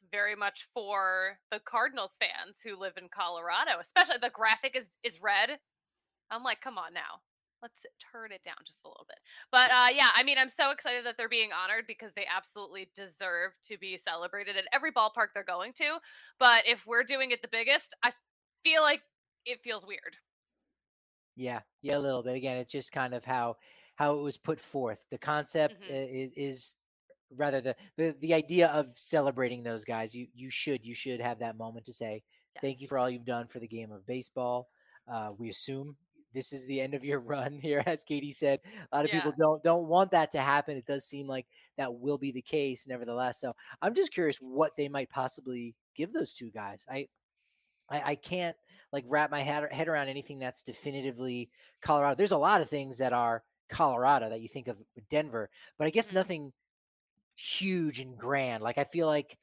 Speaker 2: very much for the Cardinals fans who live in Colorado, especially the graphic is red. I'm like, come on now. Let's turn it down just a little bit. But yeah, I mean, I'm so excited that they're being honored because they absolutely deserve to be celebrated at every ballpark they're going to. But if we're doing it the biggest, I feel like it feels weird.
Speaker 1: Yeah, a little bit. Again, it's just kind of how it was put forth. The concept is rather the idea of celebrating those guys. You should have that moment to say thank you
Speaker 2: Yes.
Speaker 1: for all you've done for the game of baseball. We assume this is the end of your run here, as Katie said. A lot of people
Speaker 2: Yeah.
Speaker 1: don't want that to happen. It does seem like that will be the case, nevertheless. So I'm just curious what they might possibly give those two guys. I can't like wrap my head around anything that's definitively Colorado. There's a lot of things that are Colorado that you think of with Denver, but I guess
Speaker 2: Mhm.
Speaker 1: nothing huge and grand. Like I feel like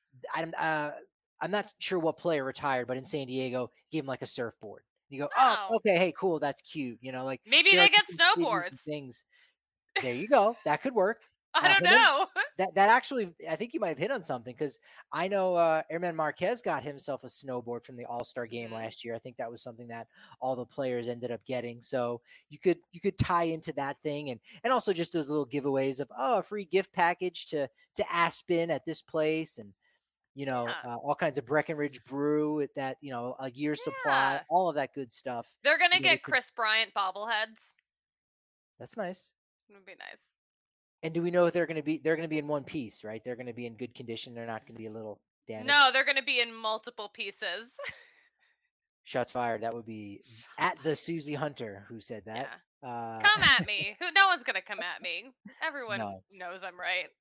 Speaker 1: I'm not sure what player retired, but in San Diego, gave him like a surfboard. You go, oh,
Speaker 2: Oh,
Speaker 1: okay, hey, cool, that's cute. Like
Speaker 2: maybe
Speaker 1: there are
Speaker 2: they get
Speaker 1: different cities and
Speaker 2: snowboards.
Speaker 1: things. There you go. That could work.
Speaker 2: I don't
Speaker 1: And then
Speaker 2: know.
Speaker 1: that actually, I think you might have hit on something because I know Airman Marquez got himself a snowboard from the All-Star game
Speaker 2: Mhm.
Speaker 1: last year. I think that was something that all the players ended up getting. So you could tie into that thing and also just those little giveaways of a free gift package to Aspen at this place and
Speaker 2: Yeah.
Speaker 1: all kinds of Breckenridge brew at that a year's supply,
Speaker 2: Yeah.
Speaker 1: all of that good stuff.
Speaker 2: They're gonna
Speaker 1: They
Speaker 2: get
Speaker 1: could,
Speaker 2: Chris Bryant bobbleheads.
Speaker 1: that's nice.
Speaker 2: It would be nice.
Speaker 1: And do we know if they're going to be in one piece, right? They're going to be in good condition. They're not going to be a little
Speaker 2: No,
Speaker 1: damaged.
Speaker 2: they're gonna be in multiple pieces.
Speaker 1: Shots fired. That would be
Speaker 2: Shots
Speaker 1: at the Susie Hunter who said that.
Speaker 2: Yeah.
Speaker 1: Uh,
Speaker 2: Come at me. No one's gonna come at me. Everyone
Speaker 1: no.
Speaker 2: knows I'm right.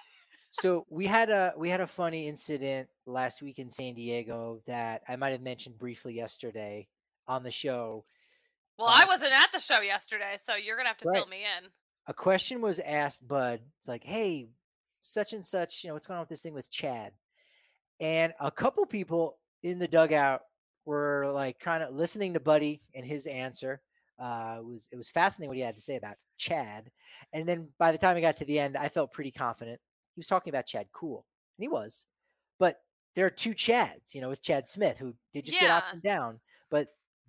Speaker 1: So we had a funny incident last week in San Diego that I might have mentioned briefly yesterday on the show.
Speaker 2: Well, I wasn't at the show yesterday, so you're gonna have to
Speaker 1: Right.
Speaker 2: fill me in.
Speaker 1: A question was asked Bud. It's like, hey, such and such, what's going on with this thing with Chad? And a couple people in the dugout were like kind of listening to Buddy and his answer. It was fascinating what he had to say about Chad. And then by the time he got to the end, I felt pretty confident. He was talking about Chad Cool, and he was. But there are two Chads, with Chad Smith, who did just get
Speaker 2: Yeah.
Speaker 1: optioned down. But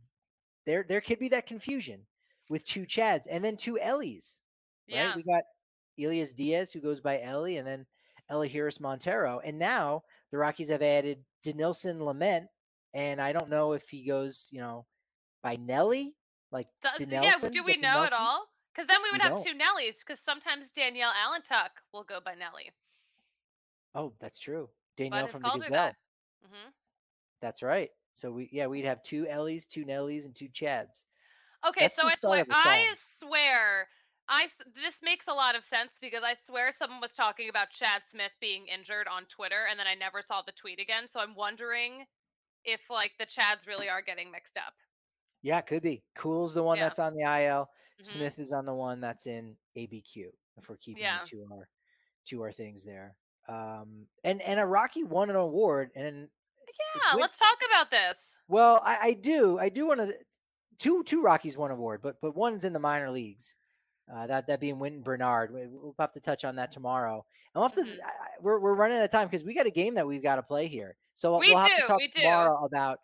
Speaker 1: there could be that confusion with two Chads and then two Ellies, right?
Speaker 2: Yeah.
Speaker 1: We got Elias Diaz, who goes by Ellie, and then Elihuris Montero. And now the Rockies have added Denilson Lament, and I don't know if he goes, by Nelly, like
Speaker 2: Yeah,
Speaker 1: Denelson,
Speaker 2: do we
Speaker 1: but
Speaker 2: know at
Speaker 1: Denelson.
Speaker 2: all? Because then we
Speaker 1: We
Speaker 2: would have
Speaker 1: don't.
Speaker 2: two Nellies, because sometimes Danielle Allentuck will go by Nelly.
Speaker 1: Oh, that's true.
Speaker 2: Bud
Speaker 1: Danielle
Speaker 2: has
Speaker 1: from the
Speaker 2: called her that.
Speaker 1: Gazelle.
Speaker 2: Hmm.
Speaker 1: That's right. So we'd have two Ellies, two Nellies, and two Chads.
Speaker 2: Okay,
Speaker 1: That's
Speaker 2: so
Speaker 1: the start of the song.
Speaker 2: this makes a lot of sense because I swear someone was talking about Chad Smith being injured on Twitter, and then I never saw the tweet again. So I'm wondering if like the Chads really are getting mixed up.
Speaker 1: Yeah, it could be. Cool's the one
Speaker 2: Yeah.
Speaker 1: that's on the IL.
Speaker 2: Hmm.
Speaker 1: Smith is on the one that's in ABQ. If we're keeping
Speaker 2: Yeah.
Speaker 1: it to our things there. And a Rocky won an award, and it's
Speaker 2: Yeah. Let's talk about this.
Speaker 1: well, I do want to two Rockies won award, but one's in the minor leagues. That being Winton Bernard. We'll have to touch on that tomorrow. And we'll have to.
Speaker 2: Hmm.
Speaker 1: We're running out of time because we got a game that we've got to play here. So
Speaker 2: We
Speaker 1: we'll have to
Speaker 2: do.
Speaker 1: talk
Speaker 2: We do.
Speaker 1: tomorrow about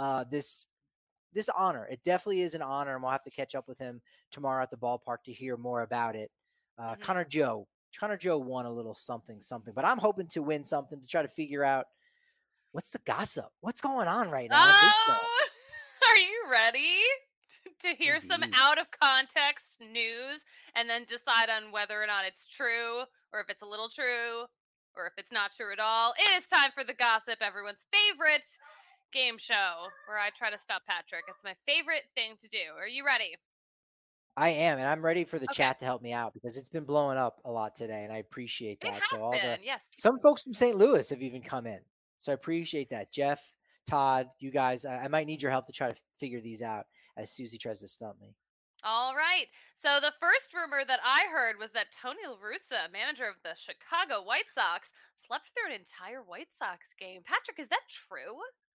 Speaker 1: this honor. It definitely is an honor, and we'll have to catch up with him tomorrow at the ballpark to hear more about it.
Speaker 2: Hmm.
Speaker 1: Connor Joe won a little something, but I'm hoping to win something to try to figure out what's the gossip, what's going on right now in baseball.
Speaker 2: Oh, are you ready to hear some
Speaker 1: Indeed.
Speaker 2: out of context news and then decide on whether or not it's true or if it's a little true or if it's not true at all? It is time for the gossip, everyone's favorite game show where I try to stop Patrick. It's my favorite thing to do. Are you ready?
Speaker 1: I am, and I'm ready for the
Speaker 2: Okay.
Speaker 1: chat to help me out because it's been blowing up a lot today, and I appreciate
Speaker 2: It
Speaker 1: that.
Speaker 2: has
Speaker 1: So
Speaker 2: been, yes.
Speaker 1: some folks from St. Louis have even come in, so I appreciate that. Jeff, Todd, you guys, I might need your help to try to figure these out as Susie tries to stump me.
Speaker 2: All right. So the first rumor that I heard was that Tony La Russa, manager of the Chicago White Sox, slept through an entire White Sox game. Patrick, is that true?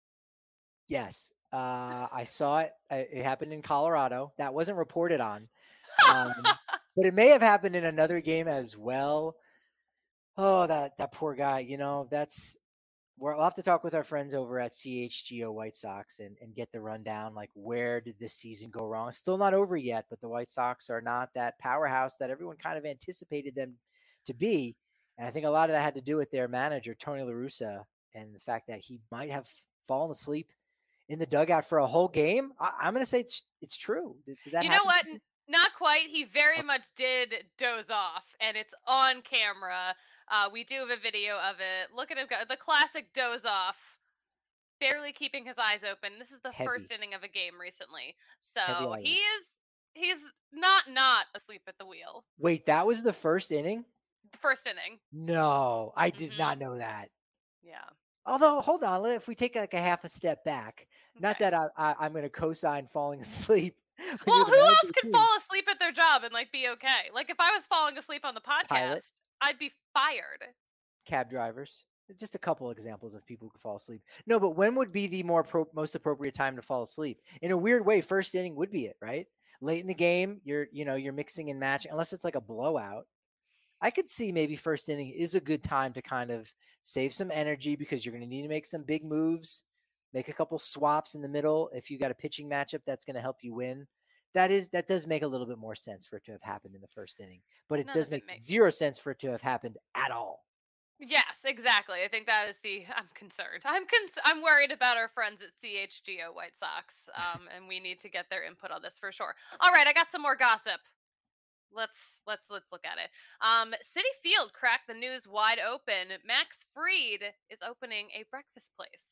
Speaker 1: Yes, I saw it. It happened in Colorado. That wasn't reported on, but it may have happened in another game as well. Oh, that poor guy. That's we'll have to talk with our friends over at CHGO White Sox and get the rundown. Like, where did this season go wrong? Still not over yet, but the White Sox are not that powerhouse that everyone kind of anticipated them to be. And I think a lot of that had to do with their manager, Tony La Russa, and the fact that he might have fallen asleep in the dugout for a whole game. I'm going to say it's true. Did that
Speaker 2: You know
Speaker 1: happen
Speaker 2: what?
Speaker 1: to you?
Speaker 2: Not quite. He very
Speaker 1: Okay.
Speaker 2: much did doze off, and it's on camera. We do have a video of it. Look at him go. The classic doze off, barely keeping his eyes open. This is the first
Speaker 1: Heavy,
Speaker 2: inning of a game recently.
Speaker 1: heavy
Speaker 2: So
Speaker 1: eyelids.
Speaker 2: he's not asleep at the wheel.
Speaker 1: Wait, that was the first inning?
Speaker 2: The first inning.
Speaker 1: No, I did not
Speaker 2: Mhm.
Speaker 1: know that.
Speaker 2: Yeah.
Speaker 1: Although, hold on, if we take like a half a step back, not
Speaker 2: Okay.
Speaker 1: that I'm going to co-sign falling asleep when you're
Speaker 2: Well,
Speaker 1: the
Speaker 2: who
Speaker 1: manager
Speaker 2: else
Speaker 1: of the
Speaker 2: can
Speaker 1: team.
Speaker 2: fall asleep at their job and like be okay? Like if I was falling asleep on the
Speaker 1: Pilot,
Speaker 2: podcast, I'd be fired.
Speaker 1: cab drivers, just a couple examples of people who can fall asleep. No, but when would be the most appropriate time to fall asleep? In a weird way, first inning would be it, right? Late in the game, you're mixing and matching, unless it's like a blowout. I could see maybe first inning is a good time to kind of save some energy because you're going to need to make some big moves, make a couple swaps in the middle. If you got a pitching matchup that's going to help you win, that does make a little bit more sense for it to have happened in the first inning. But it
Speaker 2: None
Speaker 1: does
Speaker 2: of it
Speaker 1: make
Speaker 2: makes.
Speaker 1: zero sense for it to have happened at all.
Speaker 2: Yes, exactly. I think that is the. I'm concerned. I'm worried about our friends at CHGO White Sox, and we need to get their input on this for sure. All right, I got some more gossip. Let's let's look at it. City Field cracked the news wide open. Max Fried is opening a breakfast place.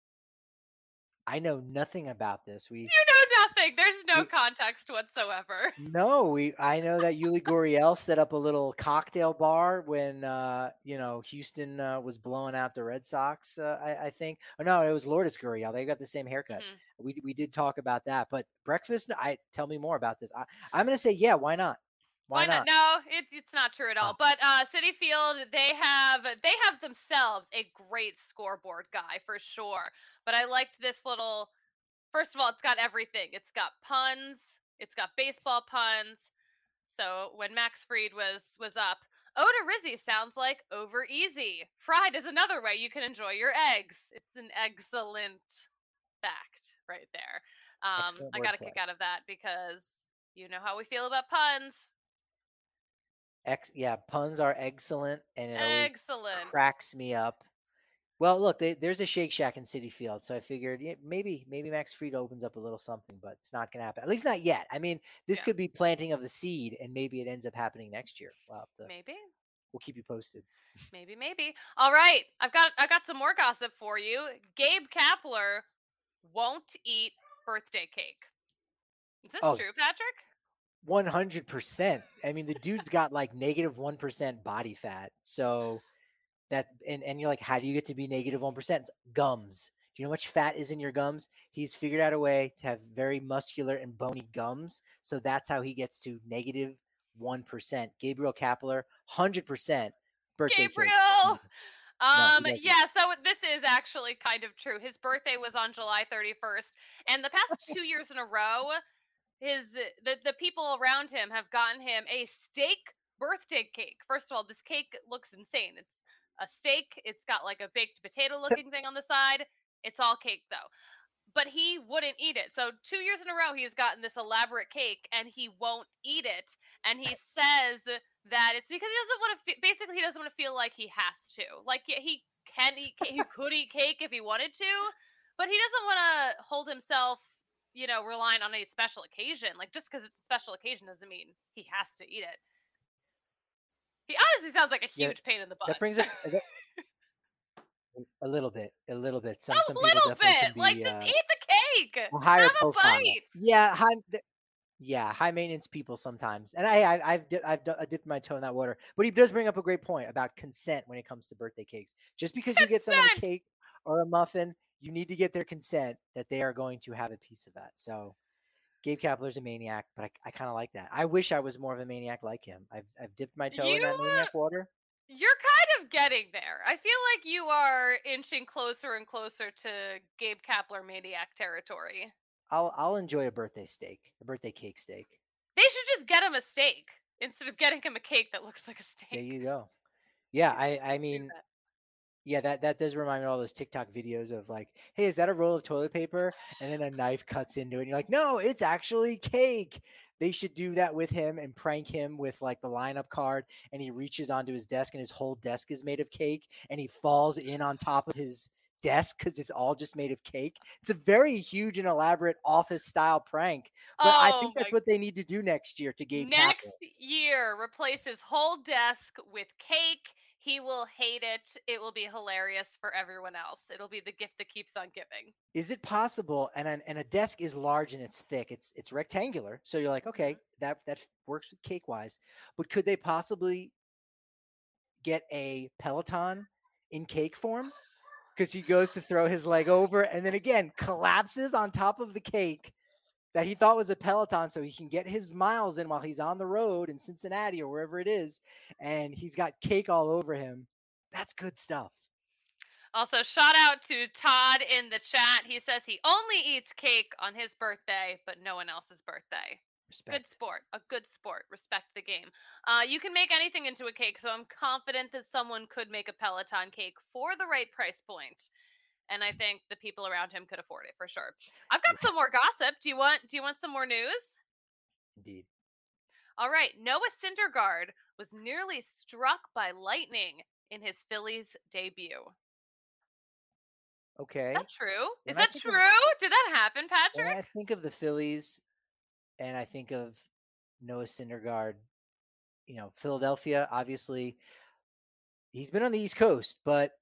Speaker 1: I know nothing about this. We
Speaker 2: You know nothing. There's no
Speaker 1: we
Speaker 2: context whatsoever.
Speaker 1: No, I know that Yuli Gurriel set up a little cocktail bar when Houston was blowing out the Red Sox. I think. Oh no, it was Lourdes Gurriel. They got the same haircut.
Speaker 2: Mhm.
Speaker 1: We did talk about that, but breakfast. I tell me more about this. I'm going to say yeah. Why not? Why
Speaker 2: Why not?
Speaker 1: not?
Speaker 2: No, it's not true at all.
Speaker 1: Ah,
Speaker 2: But City Field, they have themselves a great scoreboard guy for sure. But I liked this little. First of all, it's got everything. It's got puns. It's got baseball puns. So when Max Fried was up, Oda Rizzi sounds like over easy. Fried is another way you can enjoy your eggs. It's an excellent fact right there.
Speaker 1: excellent
Speaker 2: I got a
Speaker 1: wordplay.
Speaker 2: kick out of that because you know how we feel about puns.
Speaker 1: Yeah, puns are excellent, and it always
Speaker 2: Excellent.
Speaker 1: cracks me up. Well, look, there's a Shake Shack in City Field, so I figured maybe Max Fried opens up a little something, but it's not going to happen. At least not yet. I mean, this
Speaker 2: Yeah,
Speaker 1: could be planting of the seed, and maybe it ends up happening next year.
Speaker 2: maybe.
Speaker 1: We'll keep you posted.
Speaker 2: Maybe. All right. I got some more gossip for you. Gabe Kapler won't eat birthday cake. Is this
Speaker 1: Oh,
Speaker 2: true, Patrick?
Speaker 1: 100%. I mean, the dude's got like -1% body fat, so and you're like, how do you get to be -1%? It's gums. Do you know how much fat is in your gums? He's figured out a way to have very muscular and bony gums. So that's how he gets to -1%. Gabriel Kapler, 100% birthday cake.
Speaker 2: Gabriel.
Speaker 1: No, he doesn't.
Speaker 2: Yeah, so this is actually kind of true. His birthday was on July 31st, and the past 2 years in a row, the people around him have gotten him a steak birthday cake. First of all, this cake looks insane. It's a steak. It's got like a baked potato looking thing on the side. It's all cake though. But he wouldn't eat it. So 2 years in a row, he's gotten this elaborate cake and he won't eat it. And he says that it's because he doesn't want to. Basically, he doesn't want to feel like he has to. Like he can eat. He could eat cake if he wanted to, but he doesn't want to hold himself. Relying on a special occasion. Like just because it's a special occasion doesn't mean he has to eat it. He honestly sounds like a
Speaker 1: Yeah,
Speaker 2: huge pain in the
Speaker 1: that
Speaker 2: butt.
Speaker 1: brings up a little bit, a little bit.
Speaker 2: A
Speaker 1: Some people
Speaker 2: little
Speaker 1: definitely can
Speaker 2: bit. Like
Speaker 1: be
Speaker 2: just eat the cake.
Speaker 1: a higher
Speaker 2: Have a
Speaker 1: profile.
Speaker 2: bite.
Speaker 1: Yeah, high maintenance people sometimes, and I dipped my toe in that water. But he does bring up a great point about consent when it comes to birthday cakes. Just because you get someone a
Speaker 2: Consent.
Speaker 1: cake or a muffin, you need to get their consent that they are going to have a piece of that. So Gabe Kapler's a maniac, but I kind of like that. I wish I was more of a maniac like him. I've dipped my toe in
Speaker 2: You
Speaker 1: that maniac water.
Speaker 2: you're kind of getting there. I feel like you are inching closer and closer to Gabe Kapler maniac territory.
Speaker 1: I'll enjoy a birthday steak, a birthday cake steak.
Speaker 2: They should just get him a steak instead of getting him a cake that looks like a
Speaker 1: There
Speaker 2: steak.
Speaker 1: you go. Yeah,
Speaker 2: They should
Speaker 1: I
Speaker 2: do
Speaker 1: mean,
Speaker 2: that.
Speaker 1: Yeah, that does remind me of all those TikTok videos of like, hey, is that a roll of toilet paper? And then a knife cuts into it. And you're like, no, it's actually cake. They should do that with him and prank him with like the lineup card. And he reaches onto his desk and his whole desk is made of cake. And he falls in on top of his desk because it's all just made of cake. It's a very huge and elaborate office style prank. But I
Speaker 2: Oh
Speaker 1: think
Speaker 2: my!
Speaker 1: that's what they need to do next year to Gabe
Speaker 2: Next
Speaker 1: Kapler.
Speaker 2: year, replace his whole desk with cake. He will hate it. It will be hilarious for everyone else. It'll be the gift that keeps on giving.
Speaker 1: Is it possible? And a desk is large and it's thick. It's rectangular. So you're like,
Speaker 2: Mhm.
Speaker 1: okay, that works with cake wise. But could they possibly get a Peloton in cake form? Because he goes to throw his leg over and then again collapses on top of the cake that he thought was a Peloton so he can get his miles in while he's on the road in Cincinnati or wherever it is. And he's got cake all over him. That's good stuff.
Speaker 2: Also, shout out to Todd in the chat. He says he only eats cake on his birthday, but no one else's birthday. Good
Speaker 1: Respect.
Speaker 2: sport. A good sport. Respect the game. You can make anything into a cake, so I'm confident that someone could make a Peloton cake for the right price point. And I think the people around him could afford it for sure. I've got some more gossip. Do you want some more news?
Speaker 1: Indeed.
Speaker 2: All right. Noah Syndergaard was nearly struck by lightning in his Phillies debut.
Speaker 1: Okay.
Speaker 2: Is that true? Is
Speaker 1: When I
Speaker 2: that
Speaker 1: think
Speaker 2: true?
Speaker 1: of
Speaker 2: Did that happen,
Speaker 1: when I
Speaker 2: Patrick?
Speaker 1: think of the Phillies and I think of Noah Syndergaard, Philadelphia, obviously he's been on the East Coast, but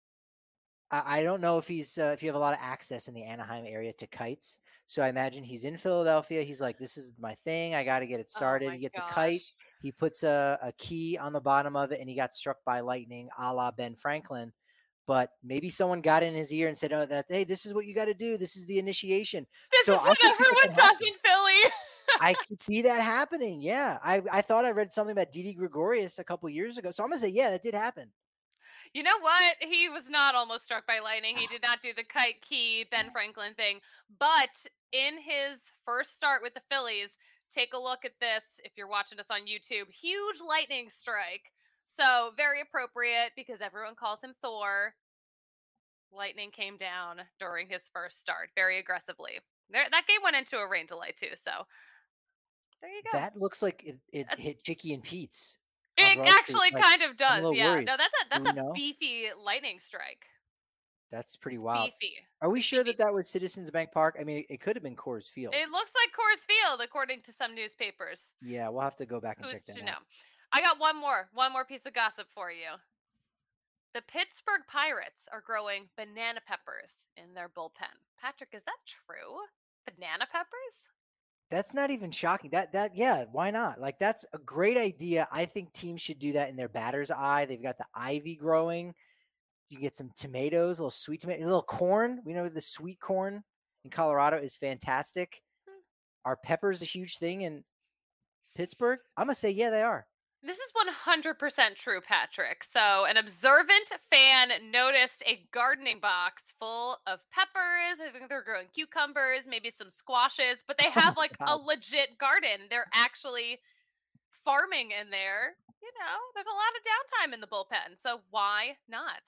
Speaker 1: I don't know if if you have a lot of access in the Anaheim area to kites. So I imagine he's in Philadelphia. He's like, this is my thing. I got to get it
Speaker 2: Oh
Speaker 1: started.
Speaker 2: my
Speaker 1: He gets a kite.
Speaker 2: gosh.
Speaker 1: He puts a key on the bottom of it and he got struck by lightning a la Ben Franklin. But maybe someone got in his ear and said, hey, this is what you got to do. This is the initiation.
Speaker 2: This
Speaker 1: So
Speaker 2: is
Speaker 1: I
Speaker 2: what
Speaker 1: could see that
Speaker 2: everyone
Speaker 1: can
Speaker 2: does
Speaker 1: happen.
Speaker 2: in Philly.
Speaker 1: I could see that happening. Yeah. I thought I read something about Didi Gregorius a couple years ago. So I'm going to say, yeah, that did happen.
Speaker 2: You know what? He was not almost struck by lightning. He did not do the kite key Ben Franklin thing. But in his first start with the Phillies, take a look at this if you're watching us on YouTube. Huge lightning strike. So very appropriate because everyone calls him Thor. Lightning came down during his first start very aggressively. That game went into a rain delay too. So there you go.
Speaker 1: That looks like it hit Chicky and Pete's on
Speaker 2: It
Speaker 1: Broad Street.
Speaker 2: actually
Speaker 1: Like,
Speaker 2: kind of
Speaker 1: I'm a
Speaker 2: does.
Speaker 1: little
Speaker 2: Yeah.
Speaker 1: worried.
Speaker 2: No,
Speaker 1: Do
Speaker 2: that's
Speaker 1: we
Speaker 2: a
Speaker 1: know?
Speaker 2: beefy lightning strike.
Speaker 1: That's pretty
Speaker 2: It's
Speaker 1: wild.
Speaker 2: beefy.
Speaker 1: Are we
Speaker 2: Beefy,
Speaker 1: sure that
Speaker 2: beefy.
Speaker 1: that was Citizens Bank Park? I mean, it could have been Coors Field.
Speaker 2: It looks like Coors Field, according to some newspapers.
Speaker 1: Yeah, we'll have to go back and
Speaker 2: Who's
Speaker 1: check that
Speaker 2: to
Speaker 1: out.
Speaker 2: know? I got one more piece of gossip for you. The Pittsburgh Pirates are growing banana peppers in their bullpen. Patrick, is that true? Banana peppers?
Speaker 1: That's not even shocking. Yeah, why not? Like that's a great idea. I think teams should do that in their batter's eye. They've got the ivy growing. You can get some tomatoes, a little sweet tomato, a little corn. We know the sweet corn in Colorado is fantastic.
Speaker 2: Hmm.
Speaker 1: Are peppers a huge thing in Pittsburgh? I'm gonna say yeah, they are.
Speaker 2: This is 100% true, Patrick. So, an observant fan noticed a gardening box full of peppers. I think they're growing cucumbers, maybe some squashes, but they
Speaker 1: Oh
Speaker 2: have
Speaker 1: my
Speaker 2: like a
Speaker 1: god.
Speaker 2: legit garden. They're actually farming in there. There's a lot of downtime in the bullpen. So, why not?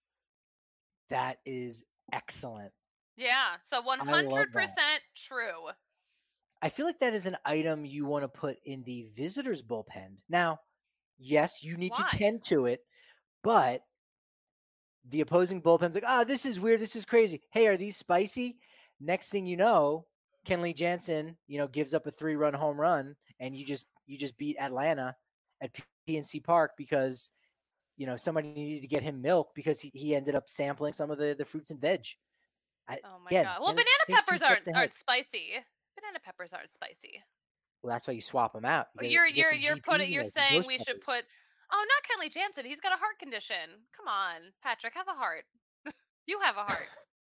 Speaker 1: That is excellent.
Speaker 2: Yeah. So,
Speaker 1: I love that.
Speaker 2: 100% true.
Speaker 1: I feel like that is an item you want to put in the visitors bullpen. Now, yes, you need to
Speaker 2: Why?
Speaker 1: tend to it, but the opposing bullpen's like, this is weird. This is crazy. Hey, are these spicy? Next thing you know, Kenley Jansen, gives up a 3-run home run, and you just beat Atlanta at PNC Park because somebody needed to get him milk because he ended up sampling some of the fruits and veg.
Speaker 2: Oh my
Speaker 1: Again,
Speaker 2: god. Well, banana
Speaker 1: think 2
Speaker 2: peppers
Speaker 1: steps ahead.
Speaker 2: aren't spicy. Banana peppers aren't spicy.
Speaker 1: Well, that's why you swap them out.
Speaker 2: Well,
Speaker 1: You get some GPs in
Speaker 2: you're
Speaker 1: there, some
Speaker 2: saying
Speaker 1: ghost
Speaker 2: we should
Speaker 1: peppers.
Speaker 2: put. Oh, not Kenley Jansen. He's got a heart condition. Come on, Patrick, have a heart. You have a heart.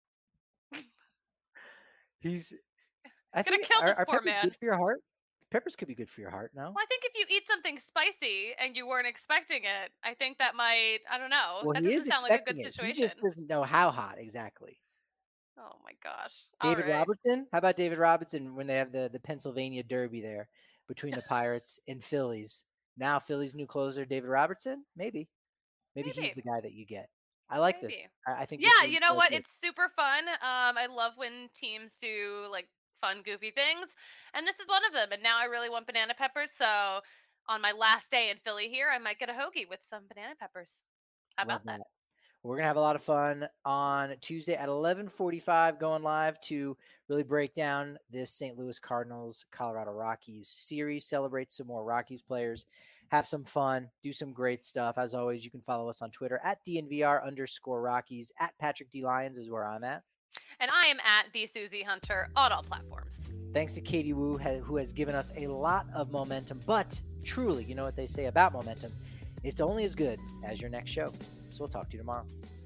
Speaker 1: I
Speaker 2: Gonna
Speaker 1: think
Speaker 2: kill this
Speaker 1: are
Speaker 2: poor
Speaker 1: peppers
Speaker 2: man.
Speaker 1: good for your heart? Peppers could be good for your heart, no?
Speaker 2: Well, I think if you eat something spicy and you weren't expecting it, I think that might. I don't know.
Speaker 1: Well,
Speaker 2: That
Speaker 1: he is
Speaker 2: doesn't sound like a good
Speaker 1: expecting it. He just
Speaker 2: situation.
Speaker 1: doesn't know how hot exactly.
Speaker 2: Oh my gosh. All
Speaker 1: David
Speaker 2: right.
Speaker 1: Robertson? How about David Robertson when they have the Pennsylvania Derby there between the Pirates and Phillies? Now Phillies' new closer, David Robertson? Maybe he's
Speaker 2: Maybe.
Speaker 1: the guy that you get. I like this.
Speaker 2: Maybe.
Speaker 1: I think this
Speaker 2: Yeah,
Speaker 1: is
Speaker 2: you know
Speaker 1: really
Speaker 2: what?
Speaker 1: good.
Speaker 2: It's super fun. I love when teams do like fun, goofy things, and this is one of them. And now I really want banana peppers. So on my last day in Philly here, I might get a hoagie with some banana peppers. How
Speaker 1: Love
Speaker 2: about that?
Speaker 1: that. We're gonna have a lot of fun on Tuesday at 11:45, going live to really break down this St. Louis Cardinals Colorado Rockies series. Celebrate some more Rockies players, have some fun, do some great stuff. As always, you can follow us on Twitter at DNVR_Rockies. At Patrick D Lyons is where I'm at.
Speaker 2: And I am at the Susie Hunter on all platforms.
Speaker 1: Thanks to Katie Wu, who has given us a lot of momentum. But truly, you know what they say about momentum? It's only as good as your next show. So we'll talk to you tomorrow.